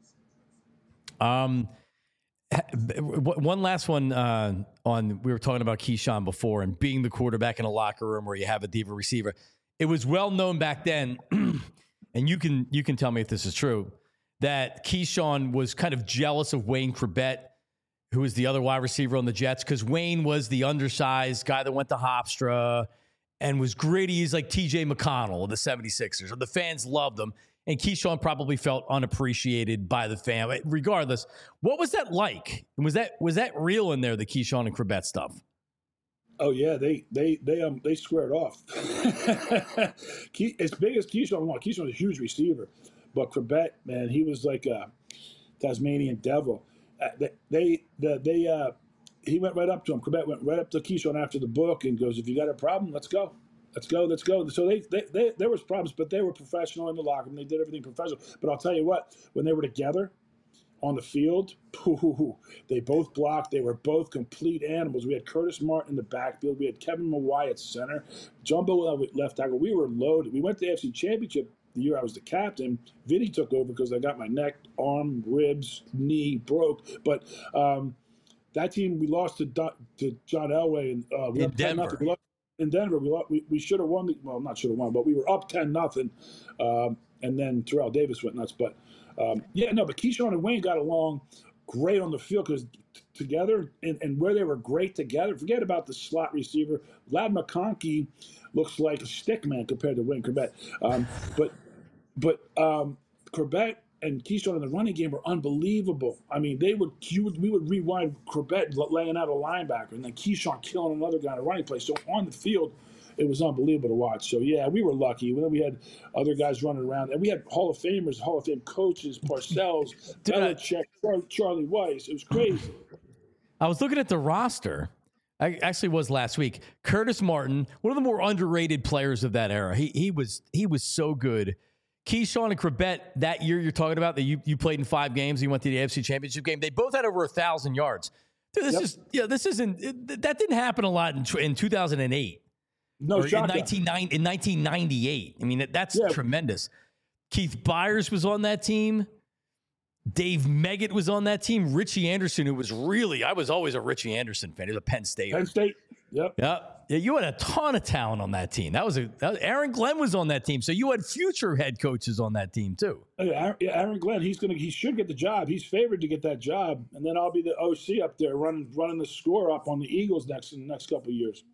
Um. One last one uh, on, we were talking about Keyshawn before and being the quarterback in a locker room where you have a diva receiver. It was well known back then, and you can you can tell me if this is true, that Keyshawn was kind of jealous of Wayne Chrebet, who was the other wide receiver on the Jets, because Wayne was the undersized guy that went to Hofstra and was gritty. He's like T J McConnell of the seventy-sixers. The fans loved him. And Keyshawn probably felt unappreciated by the fan. Regardless, what was that like? Was that was that real in there, the Keyshawn and Chrebet stuff? Oh yeah, they they they um they squared off. As big as Keyshawn, well, Keyshawn was a huge receiver, but Chrebet, man, he was like a Tasmanian devil. Uh, they they the, they uh he went right up to him. Chrebet went right up to Keyshawn after the book and goes, "If you got a problem, let's go." Let's go, let's go. So they, they, they, there was problems, but they were professional in the locker room. They did everything professional. But I'll tell you what, when they were together on the field, they both blocked. They were both complete animals. We had Curtis Martin in the backfield. We had Kevin Mawai at center. Jumbo left tackle. We were loaded. We went to the A F C Championship the year I was the captain. Vinny took over because I got my neck, arm, ribs, knee broke. But um, that team, we lost to, to John Elway. And, uh, we in Denver. We lost, In Denver, we we, we should have won. The, well, not should have won, but we were up ten nothing, um, and then Terrell Davis went nuts. But um, yeah, no. But Keyshawn and Wayne got along great on the field because t- together and, and where they were great together. Forget about the slot receiver. Lad McConkey looks like a stick man compared to Wayne Chrebet. Um, but but um, Chrebet and Keyshawn in the running game were unbelievable. I mean, they would, you would we would rewind Chrebet laying out a linebacker, and then Keyshawn killing another guy in a running play. So on the field, it was unbelievable to watch. So yeah, we were lucky. Then we had other guys running around, and we had Hall of Famers, Hall of Fame coaches, Parcells, Belichick, Charlie, Charlie Weiss. It was crazy. I was looking at the roster. I actually was last week. Curtis Martin, one of the more underrated players of that era. He he was he was so good. Keyshawn and Chrebet, that year you're talking about, that you, you played in five games, you went to the A F C Championship game, they both had over a thousand yards. Dude, this yep. is yeah, this isn't it, that didn't happen a lot in, in two thousand eight. No, or in nineteen ninety, in nineteen ninety-eight. I mean, that's yeah. tremendous. Keith Byers was on that team. Dave Meggett was on that team. Richie Anderson, who was really, I was always a Richie Anderson fan. He was a Penn State. Penn State. Yep. Yep. Yeah, you had a ton of talent on that team. That was a that was, Aaron Glenn was on that team, so you had future head coaches on that team too. Yeah, Aaron Glenn, he's gonna he should get the job. He's favored to get that job, and then I'll be the O C up there running running the score up on the Eagles next in the next couple of years.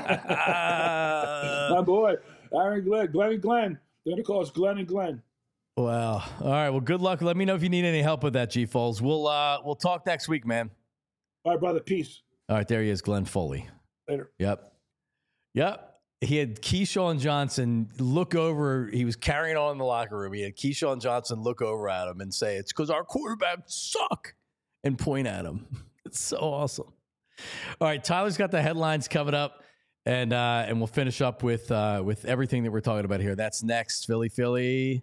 My boy, Aaron Glenn, Glenn and Glenn. They're gonna call us Glenn and Glenn. Well, all right. Well, good luck. Let me know if you need any help with that, G Foles. We'll uh, we'll talk next week, man. All right, brother. Peace. All right, there he is, Glenn Foley. Later. Yep. Yep. He had Keyshawn Johnson look over. He was carrying on in the locker room. He had Keyshawn Johnson look over at him and say, "It's because our quarterbacks suck," and point at him. It's so awesome. All right, Tyler's got the headlines coming up, and uh, and we'll finish up with uh, with everything that we're talking about here. That's next, Philly, Philly,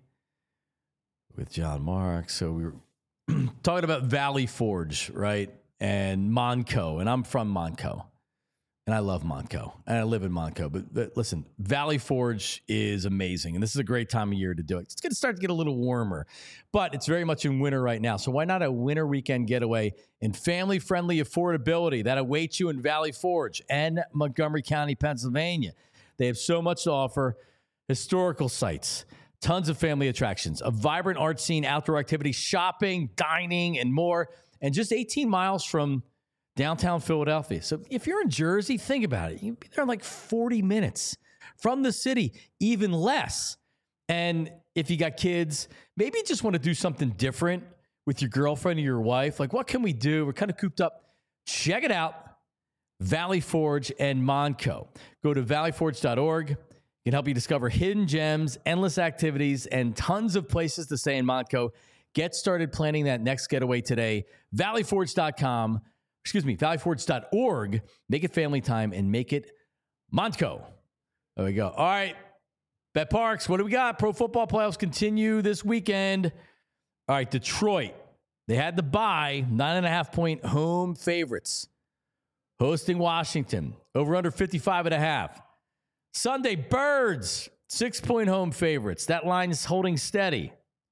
with John Marks. So we were talking about Valley Forge, right, and Monco, and I'm from Monco. And I love Monco, and I live in Monco. But, but listen, Valley Forge is amazing, and this is a great time of year to do it. It's going to start to get a little warmer, but it's very much in winter right now. So why not a winter weekend getaway and family-friendly affordability that awaits you in Valley Forge and Montgomery County, Pennsylvania? They have so much to offer: historical sites, tons of family attractions, a vibrant art scene, outdoor activities, shopping, dining, and more, and just eighteen miles from downtown Philadelphia. So if you're in Jersey, think about it. You'd be there in like forty minutes from the city, even less. And if you got kids, maybe you just want to do something different with your girlfriend or your wife. Like, what can we do? We're kind of cooped up. Check it out. Valley Forge and Monco. Go to valley forge dot org. It can help you discover hidden gems, endless activities, and tons of places to stay in Monco. Get started planning that next getaway today. valley forge dot com. Excuse me, valley forge dot org. Make it family time and make it Monco. There we go. All right. Bet Parks, what do we got? Pro football playoffs continue this weekend. All right, Detroit. They had the bye, nine and a half point home favorites. Hosting Washington. Over under fifty-five and a half. Sunday, Birds, six point home favorites. That line is holding steady.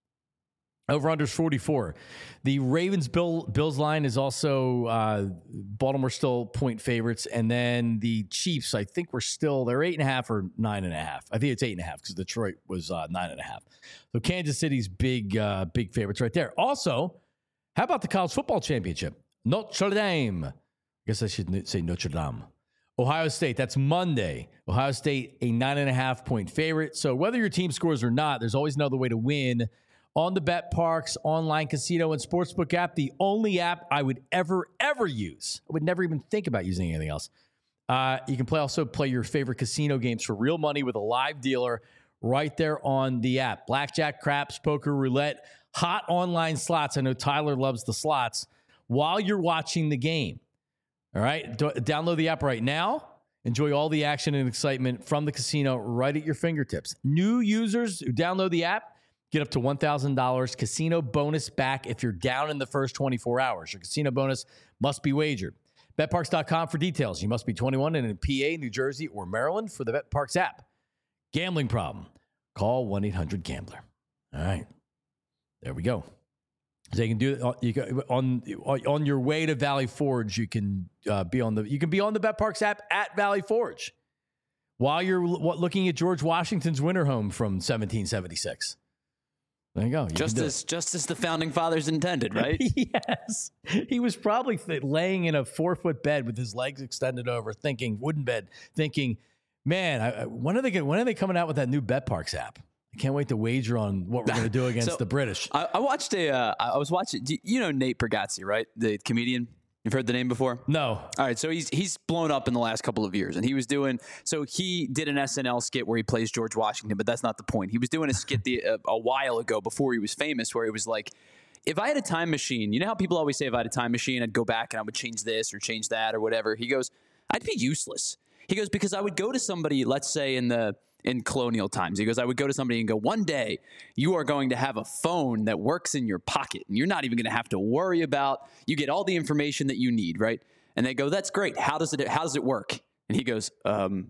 Over under forty-four. The Ravens Bill, Bills line is also uh, Baltimore still point favorites. And then the Chiefs, I think we're still, they're eight and a half or nine and a half. I think it's eight and a half because Detroit was uh, nine and a half. So Kansas City's big, uh, big favorites right there. Also, how about the college football championship? Notre Dame. I guess I should say Notre Dame. Ohio State, that's Monday. Ohio State, a nine and a half point favorite. So whether your team scores or not, there's always another way to win. On the Bet Parks online casino and sportsbook app, the only app I would ever, ever use. I would never even think about using anything else. Uh, you can play also play your favorite casino games for real money with a live dealer right there on the app. Blackjack, craps, poker, roulette, hot online slots. I know Tyler loves the slots while you're watching the game. All right, D- download the app right now. Enjoy all the action and excitement from the casino right at your fingertips. New users who download the app get up to one thousand dollars casino bonus back if you're down in the first twenty-four hours. Your casino bonus must be wagered. bet parks dot com for details. You must be twenty-one and in P A, New Jersey, or Maryland for the BetParks app. Gambling problem? Call one eight hundred gambler. All right. There we go. So you can do it you can, on on your way to Valley Forge. You can uh, be on the you can be on the BetParks app at Valley Forge while you're looking at George Washington's winter home from seventeen seventy-six. There you go. You just as it. just as the founding fathers intended, right? Yes. He was probably th- laying in a four foot bed with his legs extended over, thinking wooden bed, thinking, man, I, I, when are they going? When are they coming out with that new BetParks app? I can't wait to wager on what we're going to do against so, the British. I, I watched a. Uh, I was watching. Do you know Nate Bargatze, right? The comedian. You've heard the name before? No. All right, so he's he's blown up in the last couple of years, and he was doing so he did an S N L skit where he plays George Washington, but that's not the point. He was doing a skit the, a, a while ago before he was famous, where it was like, if I had a time machine, you know how people always say if I had a time machine, I'd go back and I would change this or change that or whatever. He goes, I'd be useless. He goes, because I would go to somebody, let's say in the in colonial times. He goes, I would go to somebody and go, one day you are going to have a phone that works in your pocket and you're not even going to have to worry about, you get all the information that you need, right? And they go, that's great. How does it, how does it work? And he goes, um,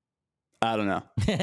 I don't know.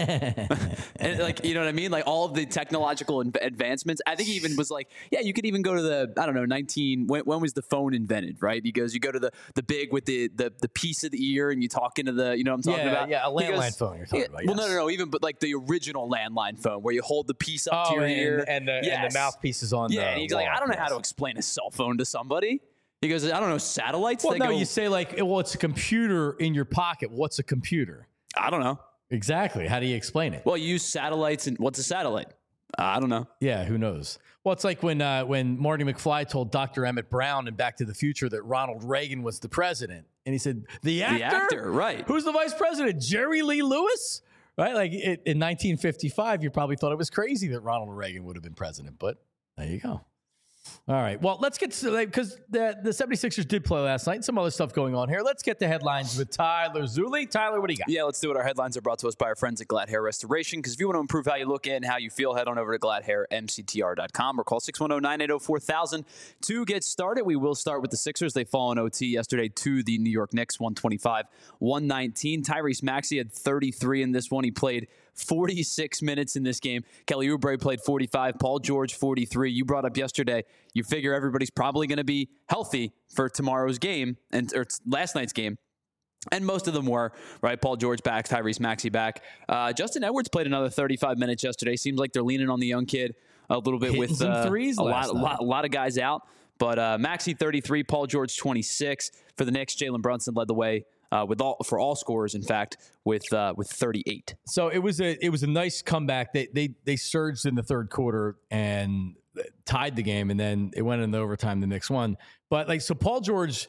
And like, you know what I mean? Like all of the technological advancements. I think he even was like, yeah, you could even go to the, I don't know, nineteen, when, when was the phone invented, right? He goes, you go to the, the big with the, the, the piece of the ear and you talk into the, you know what I'm talking yeah, about? Yeah, a landline goes, phone you're talking yeah, about. Yes. Well, no, no, no. Even, but like the original landline phone where you hold the piece up oh, to your and, ear. And the, yes. and the mouthpiece is on yeah, the and he's wall. like, I don't know yes. how to explain a cell phone to somebody. He goes, I don't know, satellites? Well, they no, go, you say like, well, it's a computer in your pocket. What's a computer? I don't know. Exactly. How do you explain it? Well, you use satellites, and what's a satellite? I don't know. Yeah, who knows? Well, it's like when uh, when Marty McFly told Doctor Emmett Brown in Back to the Future that Ronald Reagan was the president. And he said, the actor? The actor, right. Who's the vice president? Jerry Lee Lewis? Right? Like it, in nineteen fifty-five, you probably thought it was crazy that Ronald Reagan would have been president. But there you go. All right. Well, let's get to because the, the 76ers did play last night. Some other stuff going on here. Let's get the headlines with Tyler Zulli. Tyler, what do you got? Yeah, let's do it. Our headlines are brought to us by our friends at Glad Hair Restoration. Because if you want to improve how you look and how you feel, head on over to glad hair m c t r dot com or call six one zero, nine eight zero, four thousand to get started. We will start with the Sixers. They fall in O T yesterday to the New York Knicks, one twenty-five, one nineteen. Tyrese Maxey had thirty-three in this one. He played forty-six minutes in this game. Kelly Oubre played forty-five. Paul George, forty-three. You brought up yesterday, you figure everybody's probably going to be healthy for tomorrow's game and or last night's game. And most of them were, right? Paul George back, Tyrese Maxey back. Uh, Justin Edwards played another thirty-five minutes yesterday. Seems like they're leaning on the young kid a little bit. Hitting with uh, threes a, lot, a, night. lot, a lot of guys out. But uh, Maxey, thirty-three. Paul George, twenty-six. For the Knicks, Jalen Brunson led the way. Uh, with all for all scorers, in fact, with uh, with thirty-eight. So it was a it was a nice comeback. They they they surged in the third quarter and tied the game, and then it went into overtime. The Knicks won. But like so, Paul George,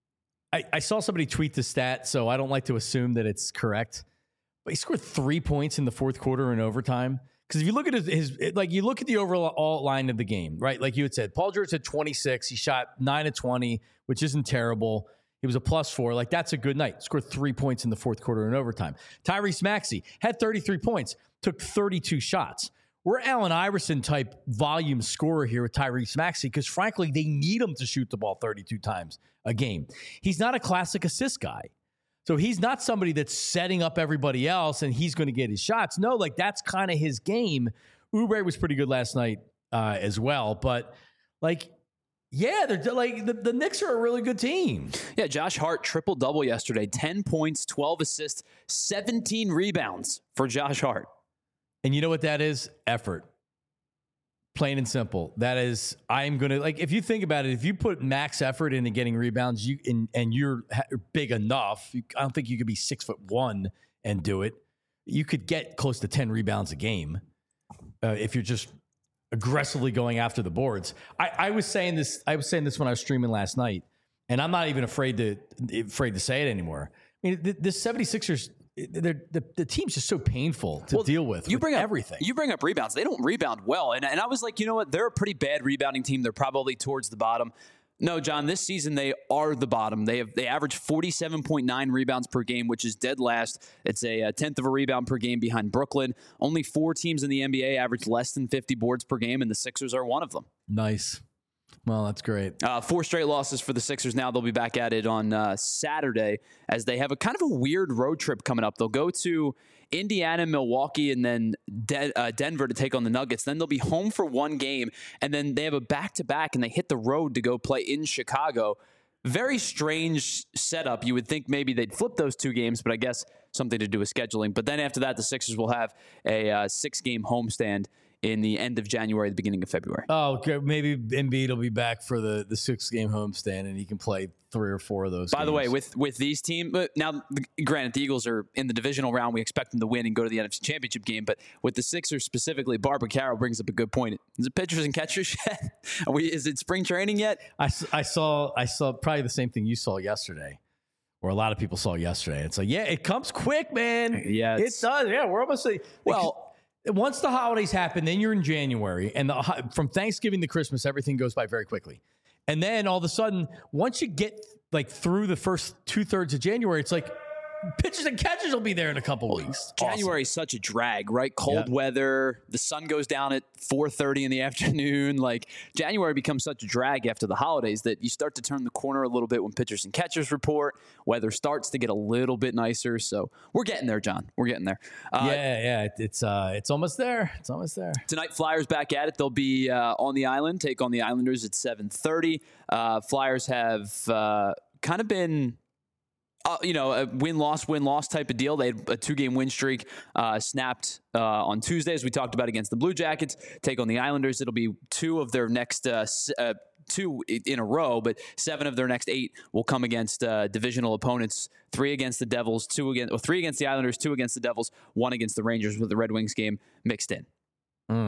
I, I saw somebody tweet the stat, so I don't like to assume that it's correct. But he scored three points in the fourth quarter in overtime. Because if you look at his, his like you look at the overall line of the game, right? Like you had said, Paul George had twenty-six. He shot nine of twenty, which isn't terrible. He was a plus four. Like, that's a good night. Scored three points in the fourth quarter in overtime. Tyrese Maxey had thirty-three points, took thirty-two shots. We're Allen Iverson type volume scorer here with Tyrese Maxey because, frankly, they need him to shoot the ball thirty-two times a game. He's not a classic assist guy. So he's not somebody that's setting up everybody else and he's going to get his shots. No, like, that's kind of his game. Oubre was pretty good last night uh, as well. But, like, yeah, they're like the, the Knicks are a really good team. Yeah, Josh Hart triple-double yesterday. ten points, twelve assists, seventeen rebounds for Josh Hart. And you know what that is? Effort. Plain and simple. That is, I'm going to, like, if you think about it, if you put max effort into getting rebounds you and, and you're big enough, you, I don't think you could be six foot one and do it. You could get close to ten rebounds a game uh, if you're just aggressively going after the boards. I, I was saying this. I was saying this when I was streaming last night, and I'm not even afraid to afraid to say it anymore. I mean, the, the 76ers, the, the team's just so painful to well, deal with. You with bring up everything. You bring up rebounds. They don't rebound well, and and I was like, you know what? They're a pretty bad rebounding team. They're probably towards the bottom. No, John, this season they are the bottom. They have they average forty-seven point nine rebounds per game, which is dead last. It's a, a tenth of a rebound per game behind Brooklyn. Only four teams in the N B A average less than fifty boards per game, and the Sixers are one of them. Nice. Well, that's great. Uh, four straight losses for the Sixers now. They'll be back at it on uh, Saturday as they have a kind of a weird road trip coming up. They'll go to Indiana, Milwaukee, and then De- uh, Denver to take on the Nuggets. Then they'll be home for one game, and then they have a back-to-back, and they hit the road to go play in Chicago. Very strange setup. You would think maybe they'd flip those two games, but I guess something to do with scheduling. But then after that, the Sixers will have a uh, six-game homestand in the end of January, the beginning of February. Oh, okay. Maybe Embiid will be back for the, the six-game homestand, and he can play three or four of those By games. the way, with with these teams, now, granted, the Eagles are in the divisional round. We expect them to win and go to the N F C Championship game. But with the Sixers specifically, Barbara Carroll brings up a good point. Is it pitchers and catchers yet? Are we, is it spring training yet? I, I, saw, I saw probably the same thing you saw yesterday, or a lot of people saw yesterday. It's like, yeah, it comes quick, man. Yeah, it does. Yeah, we're almost like, well. Once the holidays happen, then you're in January, and the, from Thanksgiving to Christmas, everything goes by very quickly. And then all of a sudden, once you get like through the first two thirds of January, it's like pitchers and catchers will be there in a couple well, weeks. January is such a drag, right? Cold yep. weather, the sun goes down at four thirty in the afternoon. Like January becomes such a drag after the holidays that you start to turn the corner a little bit when pitchers and catchers report. Weather starts to get a little bit nicer, so we're getting there, John. We're getting there. Uh, yeah, yeah, it's uh, it's almost there. It's almost there. Tonight, Flyers back at it. They'll be uh, on the island, take on the Islanders at seven thirty. Uh, Flyers have uh, kind of been. Uh, you know, a win-loss, win-loss type of deal. They had a two-game win streak uh, snapped uh, on Tuesday, as we talked about, against the Blue Jackets. Take on the Islanders. It'll be two of their next uh, uh, two in a row, but seven of their next eight will come against uh, divisional opponents. Three against the Devils, two against, or three against the Islanders, two against the Devils, one against the Rangers, with the Red Wings game mixed in. Mm.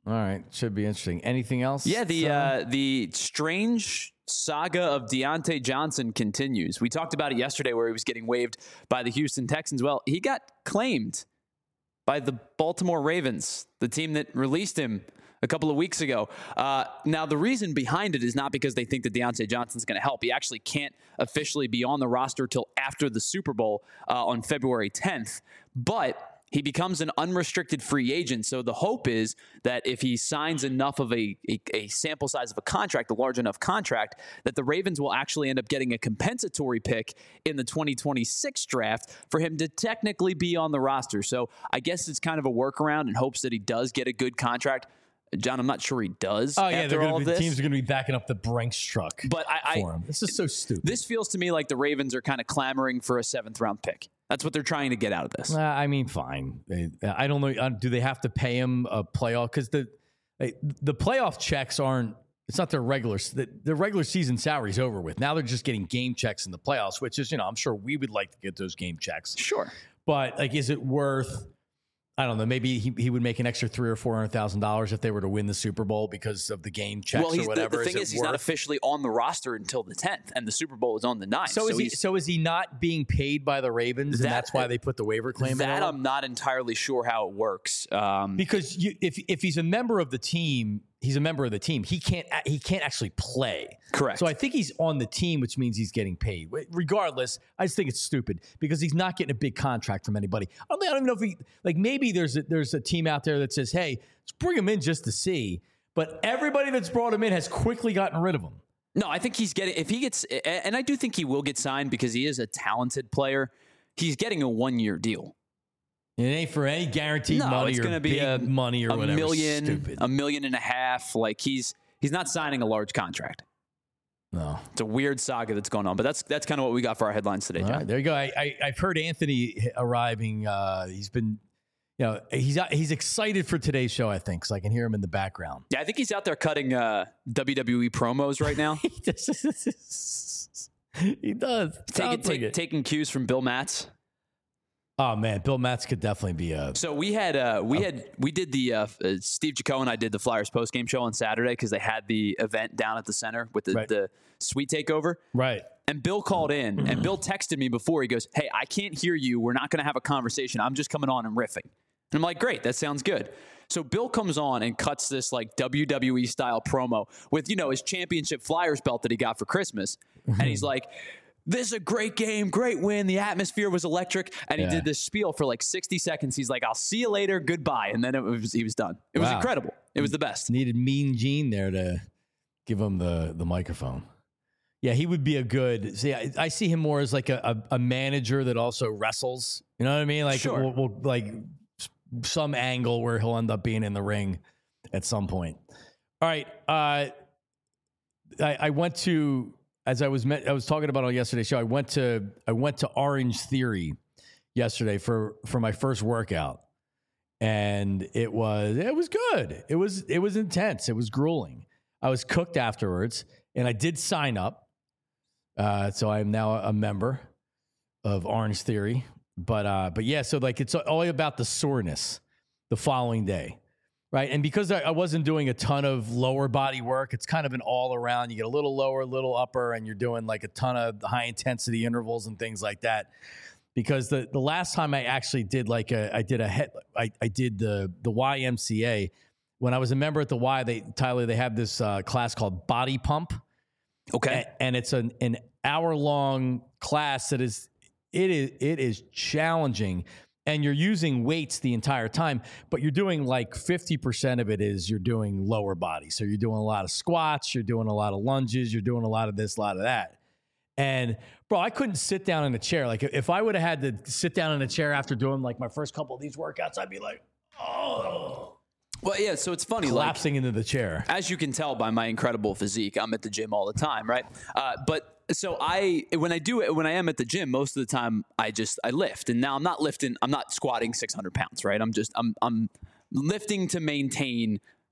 All right. Should be interesting. Anything else? Yeah, the uh, uh, the strange saga of Deontay Johnson continues. We talked about it yesterday where he was getting waived by the Houston Texans. Well, he got claimed by the Baltimore Ravens, the team that released him a couple of weeks ago. Uh, now, the reason behind it is not because they think that Deontay Johnson's going to help. He actually can't officially be on the roster till after the Super Bowl uh, on February tenth. But he becomes an unrestricted free agent. So the hope is that if he signs enough of a, a, a sample size of a contract, a large enough contract, that the Ravens will actually end up getting a compensatory pick in the twenty twenty-six draft for him to technically be on the roster. So I guess it's kind of a workaround in hopes that he does get a good contract. John, I'm not sure he does. Oh, yeah, after they're all gonna of be, this. teams are going to be backing up the Brinks truck But I, for I him. This is so stupid. This feels to me like the Ravens are kind of clamoring for a seventh round pick. That's what they're trying to get out of this. Uh, I mean, fine. They, I don't know. uh, Do they have to pay him a playoff? Because the they- the playoff checks aren't. It's not their regular. The, the regular season salary's over with. Now they're just getting game checks in the playoffs, which is, you know, I'm sure we would like to get those game checks. Sure. But like, is it worth? I don't know. Maybe he, he would make an extra three or four hundred thousand dollars if they were to win the Super Bowl because of the game checks Well, he's, or whatever. the, the thing is, is, it he's not worth? officially on the roster until the tenth, and the Super Bowl is on the ninth. So, is he? he's- So is he not being paid by the Ravens, and That- that's why they put the waiver claim in? that on him? I'm not entirely sure how it works. Um, Because you, if if he's a member of the team, he's a member of the team. He can't he can't actually play. Correct. So I think he's on the team, which means he's getting paid. Regardless, I just think it's stupid because he's not getting a big contract from anybody. I don't, I don't even know if he like maybe there's a, there's a team out there that says, hey, let's bring him in just to see. But everybody that's brought him in has quickly gotten rid of him. no, I think he's getting, if he gets, and I do think he will get signed because he is a talented player, he's getting a one year deal. It ain't for any guaranteed No, money it's or going to be big a, money or a whatever. million, Stupid. a million and a half. Like he's, he's not signing a large contract. No. It's a weird saga that's going on, but that's that's kind of what we got for our headlines today, All John. right, there you go. I, I I've heard Anthony arriving. Uh, he's been, you know, he's he's excited for today's show. I think because I can hear him in the background. Yeah, I think he's out there cutting uh, W W E promos right now, he does. taking, Sounds like take, it. taking cues from Bill Matz. Oh man, Bill Matz could definitely be a. So we had uh, we had we did the uh, uh, Steve Jaco and I did the Flyers post game show on Saturday because they had the event down at the center with the, Right. the suite takeover. Right. And Bill called in, and Bill texted me before. He goes, "Hey, I can't hear you. We're not going to have a conversation. I'm just coming on and riffing." And I'm like, "Great, that sounds good." So Bill comes on and cuts this like W W E style promo with, you know, his championship Flyers belt that he got for Christmas, and he's like, "This is a great game, great win. The atmosphere was electric." And he Yeah. did this spiel for like sixty seconds. He's like, "I'll see you later, goodbye," and then it was he was done. It was Wow. incredible. It was the best. Needed Mean Gene there to give him the the microphone. Yeah, he would be a good. See, I, I see him more as like a, a, a manager that also wrestles. You know what I mean? Like, Sure. we'll, we'll, like some angle where he'll end up being in the ring at some point. All right, uh, I, I went to as I was met, I was talking about on yesterday's show. I went to I went to Orange Theory yesterday for for my first workout, and it was it was good. It was it was intense. It was grueling. I was cooked afterwards, and I did sign up. Uh, so I am now a member of Orange Theory. But uh, but yeah, so like it's all about the soreness the following day, right? And because I, I wasn't doing a ton of lower body work, it's kind of an all around. You get a little lower, a little upper, and you're doing like a ton of high intensity intervals and things like that. Because the, the last time I actually did like a I did a head I, I did the the Y M C A when I was a member at the Y. They Tyler they have this uh, class called Body Pump. Okay. A- and it's an, an hour long class that is it is it is challenging, and you're using weights the entire time, but you're doing like fifty percent of it is you're doing lower body. So you're doing a lot of squats, you're doing a lot of lunges, you're doing a lot of this, a lot of that. And bro, I couldn't sit down in a chair. Like if I would have had to sit down in a chair after doing like my first couple of these workouts, I'd be like, oh, Well, yeah. So it's funny, like, collapsing into the chair. as you can tell by my incredible physique, I'm at the gym all the time, right? Uh, but so I, when I do it, when I am at the gym, most of the time I just I lift, and now I'm not lifting, I'm not squatting six hundred pounds, right? I'm just I'm I'm lifting to maintain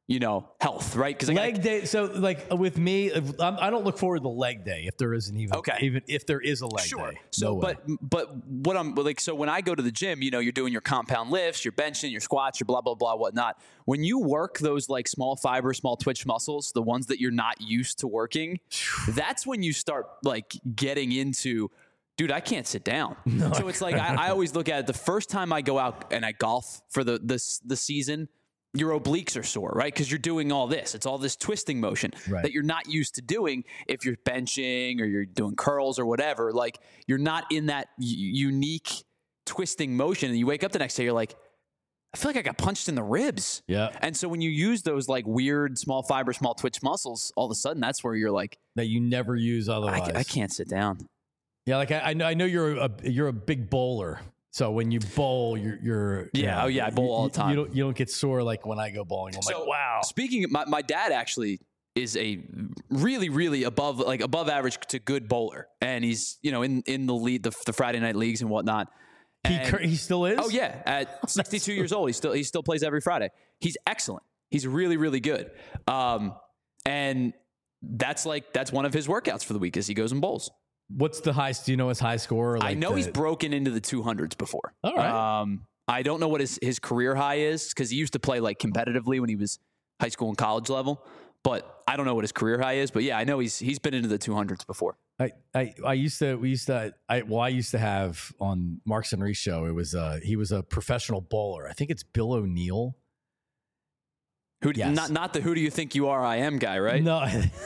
you know, health, right? Because leg day. So, like with me, if, I'm, I don't look forward to the leg day if there isn't even Okay. even if there is a leg Sure. day. So, No way. but but what I'm like, so when I go to the gym, you know, you're doing your compound lifts, you're benching, your squats, your blah blah blah, whatnot. When you work those like small fiber, small twitch muscles, the ones that you're not used to working, that's when you start like getting into, dude, I can't sit down. No, so it's like I, I always look at it. The first time I go out and I golf for the this the season, your obliques are sore, right? Because you're doing all this. It's all this twisting motion Right. that you're not used to doing if you're benching or you're doing curls or whatever. Like you're not in that u- unique twisting motion. And you wake up the next day, you're like, I feel like I got punched in the ribs. Yeah. And so when you use those like weird small fiber, small twitch muscles, all of a sudden that's where you're like, that you never use I, otherwise. I can't sit down. Yeah, like I, I know I know you're a you're a big bowler. So when you bowl, you're you're Yeah, you know, oh, yeah, I bowl you, all the time. You don't you don't get sore like when I go bowling. I'm So, like, wow. Speaking of, my, my dad actually is a really, really above, like above average to good bowler. And he's, you know, in, in the lead, the, the Friday night leagues and whatnot. He And- cur- he still is. Oh yeah. At sixty-two years old, he still, he still plays every Friday. He's excellent. He's really, really good. Um, and that's like, that's one of his workouts for the week is he goes and bowls. What's the highest? Do you know his high score? Like I know the, he's broken into the two hundreds before. All right. Um, I don't know what his, his career high is because he used to play like competitively when he was high school and college level, but I don't know what his career high is. But yeah, I know he's he's been into the two hundreds before. I, I I used to we used to I well I used to have on Marks and Reese show. It was uh he was a professional bowler. I think it's Bill O'Neill. Who do- Yes. not not the who do you think you are I am guy, right? No.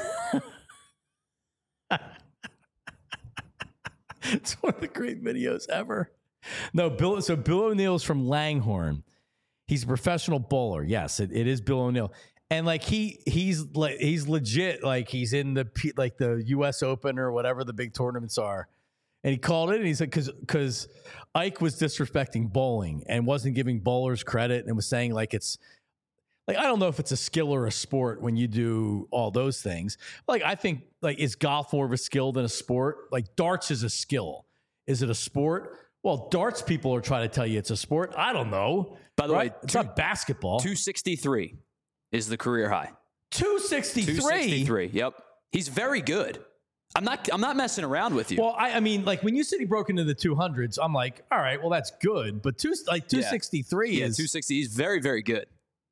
It's one of the great videos ever. No, Bill. So Bill O'Neill's from Langhorne. He's a professional bowler. Yes, it, it is Bill O'Neill. And like he he's like he's legit. Like he's in the P- like the U S Open or whatever the big tournaments are. And he called it and he said because because Ike was disrespecting bowling and wasn't giving bowlers credit and was saying like it's. Like, I don't know if it's a skill or a sport when you do all those things. Like, I think, like, is golf more of a skill than a sport? Like, darts is a skill. Is it a sport? Well, darts people are trying to tell you it's a sport. I don't know. By the right? way, it's two- not basketball. two sixty-three is the career high. two sixty-three? two sixty-three. Yep. He's very good. I'm not I'm not messing around with you. Well, I, I mean, like, when you said he broke into the two hundreds, I'm like, all right, well, that's good. But two, like two sixty-three yeah, is... two sixty. He's very, very good.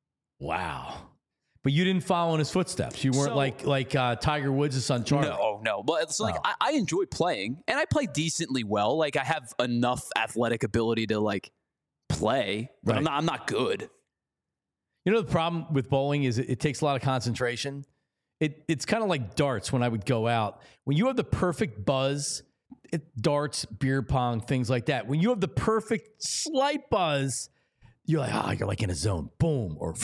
Wow. But you didn't follow in his footsteps. You weren't So- like like uh, Tiger Woods' son Charlie. No, no. But it's like Oh. I, I enjoy playing, and I play decently well. Like I have enough athletic ability to like play, but I'm Right. not. I'm not good. You know, the problem with bowling is it, it takes a lot of concentration. It, it's kind of like darts when I would go out. When you have the perfect buzz, it, darts, beer pong, things like that. When you have the perfect slight buzz, you're like, ah, you're like in a zone. Boom. Or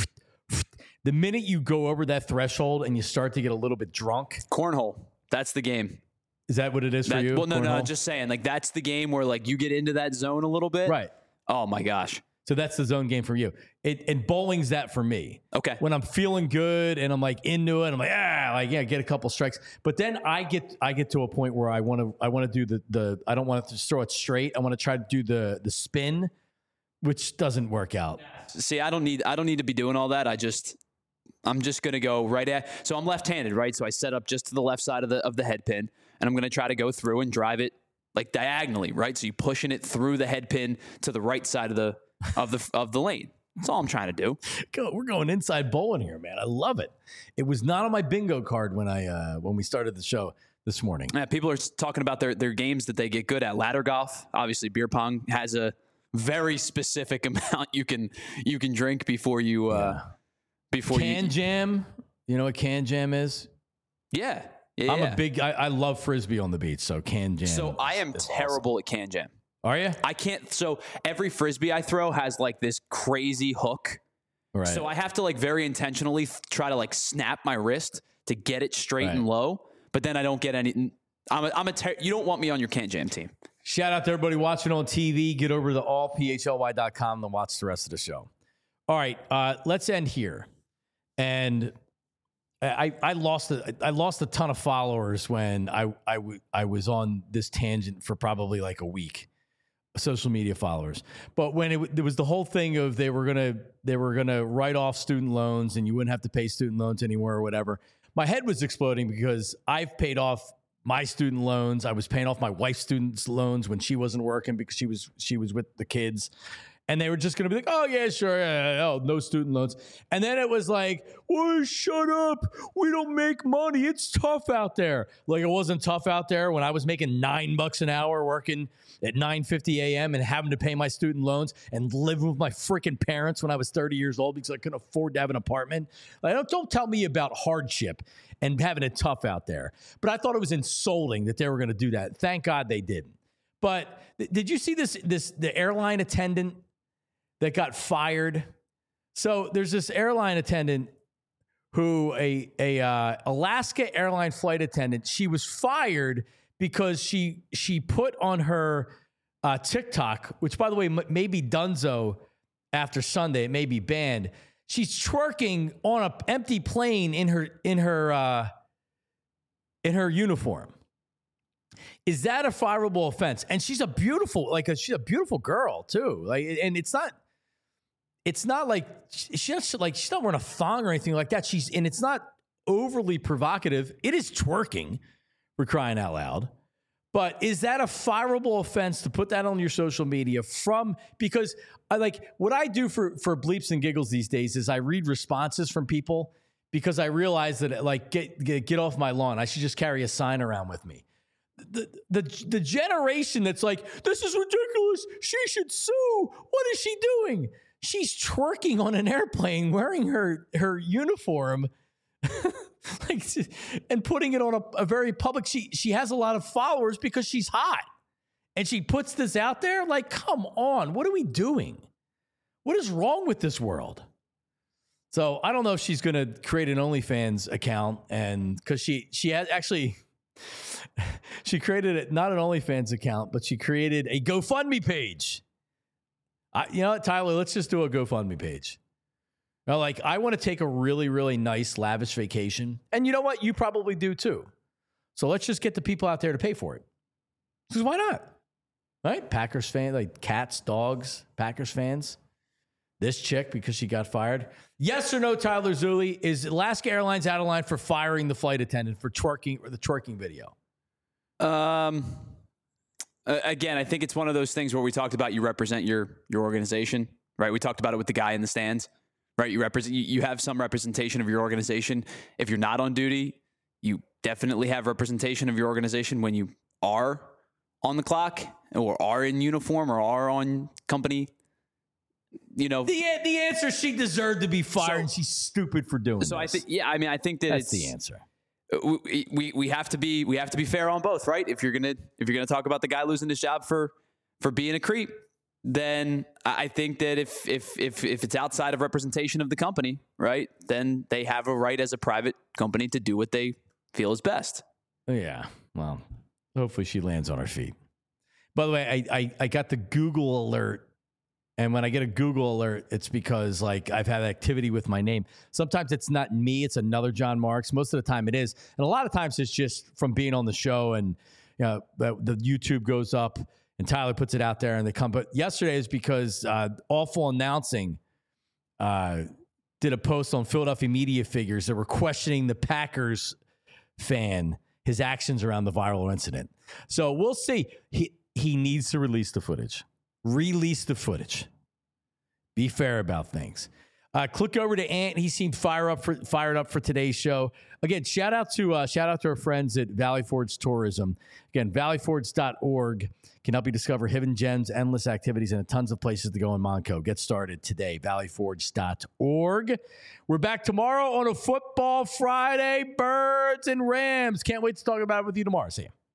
the minute you go over that threshold and you start to get a little bit drunk, Cornhole. That's the game. is that what it is for That- you? well, no, no. Cornhole? Just saying. Like that's the game where like you get into that zone a little bit. Right. Oh my gosh. So that's the zone game for you. It, and bowling's that for me. Okay. When I'm feeling good and I'm like into it, I'm like, ah, like yeah, get a couple strikes. But then I get I get to a point where I want to I want to do the the I don't want to just throw it straight. I want to try to do the the spin, which doesn't work out. See, I don't need. I don't need to be doing all that. I just. I'm just gonna go right at. So I'm left-handed, right? So I set up just to the left side of the of the head pin, and I'm gonna try to go through and drive it like diagonally, right? So you're pushing it through the head pin to the right side of the of the of the lane. That's all I'm trying to do. Go, we're going inside bowling here, man. I love it. It was not on my bingo card when I uh, when we started the show this morning. Yeah, people are talking about their their games that they get good at. Ladder golf, obviously, beer pong has a very specific amount you can you can drink before you uh, before Can you. jam, you know what can jam is? Yeah, yeah. I'm yeah. a big. I, I love frisbee on the beach, so can jam. So I is- am is terrible at can jam. awesome. Are you? I can't. So every frisbee I throw has like this crazy hook. Right. So I have to like very intentionally th- try to like snap my wrist to get it straight Right. and low. But then I don't get any. I'm a, I'm a ter- you don't want me on your can jam team. Shout out to everybody watching on T V. Get over to all p h l y dot com and watch the rest of the show. All right, uh, let's end here. And I, I lost a, I lost a ton of followers when I, I, w- I was on this tangent for probably like a week. social media followers. But when it there was the whole thing of they were gonna they were gonna write off student loans and you wouldn't have to pay student loans anymore or whatever, my head was exploding because I've paid off my student loans. I was paying off my wife's student loans when she wasn't working because she was she was with the kids. And they were just going to be like, oh, yeah, sure. Yeah, oh, no student loans. And then it was like, well, shut up. We don't make money. It's tough out there. Like, it wasn't tough out there when I was making nine bucks an hour working at nine fifty a.m. and having to pay my student loans and living with my freaking parents when I was thirty years old because I couldn't afford to have an apartment. Like, don't, don't tell me about hardship and having it tough out there. But I thought it was insulting that they were going to do that. Thank God they didn't. But th- did you see this, this the airline attendant that got fired? So there's this airline attendant who a a uh, Alaska airline flight attendant. She was fired because she she put on her uh, TikTok, which by the way m- may be Dunzo after Sunday. It may be banned. She's twerking on an empty plane in her in her uh, in her uniform. Is that a fireable offense? And she's a beautiful, like a, she's a beautiful girl too. Like, and it's not. It's not like she's like she's not wearing a thong or anything like that. She's and it's not overly provocative. It is twerking. We're crying out loud. But is that a fireable offense to put that on your social media from? Because I like what I do for for bleeps and giggles these days is I read responses from people because I realize that like get get, get off my lawn. I should just carry a sign around with me. The, the the generation that's like, this is ridiculous. She should sue. What is she doing? She's twerking on an airplane wearing her, her uniform like, and putting it on a, a very public. She, she has a lot of followers because she's hot. And she puts this out there. Like, come on. What are we doing? What is wrong with this world? So I don't know if she's going to create an OnlyFans account. And because she, she has actually, she created it, not an OnlyFans account, but she created a GoFundMe page. I, you know what, Tyler, let's just do a GoFundMe page. Now, like, I want to take a really, really nice, lavish vacation. And you know what? You probably do too. So let's just get the people out there to pay for it. Because why not? Right? Packers fans, like cats, dogs, Packers fans. This chick, because she got fired. Yes or no, Tyler Zulli? Is Alaska Airlines out of line for firing the flight attendant for twerking or the twerking video? Um... Uh, again, I think it's one of those things where we talked about you represent your your organization, right? We talked about it with the guy in the stands, right? You represent, you, you have some representation of your organization. If you're not on duty, you definitely have representation of your organization when you are on the clock or are in uniform or are on company. You know, the the answer, she deserved to be fired, so, and she's stupid for doing. So this. I think, yeah, I mean, I think that that's it's the answer. We, we we have to be we have to be fair on both, right? If you're gonna if you're gonna talk about the guy losing his job for for being a creep, then I think that if if if if it's outside of representation of the company, right, then they have a right as a private company to do what they feel is best. Yeah. Well, hopefully she lands on her feet. By the way, I I, I got the Google alert. And when I get a Google alert, it's because like I've had activity with my name. Sometimes it's not me, it's another John Marks. Most of the time it is. And a lot of times it's just from being on the show and you know, the, the YouTube goes up and Tyler puts it out there and they come. But yesterday is because uh, Awful Announcing uh, did a post on Philadelphia media figures that were questioning the Packers fan, his actions around the viral incident. So we'll see. He, he needs to release the footage. Release the footage. Be fair about things. Uh, click over to Ant. He seemed fire up for, fired up for today's show. Again, shout out to uh, shout out to our friends at Valley Forge Tourism. Again, valley forge dot org can help you discover hidden gems, endless activities, and tons of places to go in Monaco. Get started today. valley forge dot org. We're back tomorrow on a Football Friday. Birds and Rams. Can't wait to talk about it with you tomorrow. See you.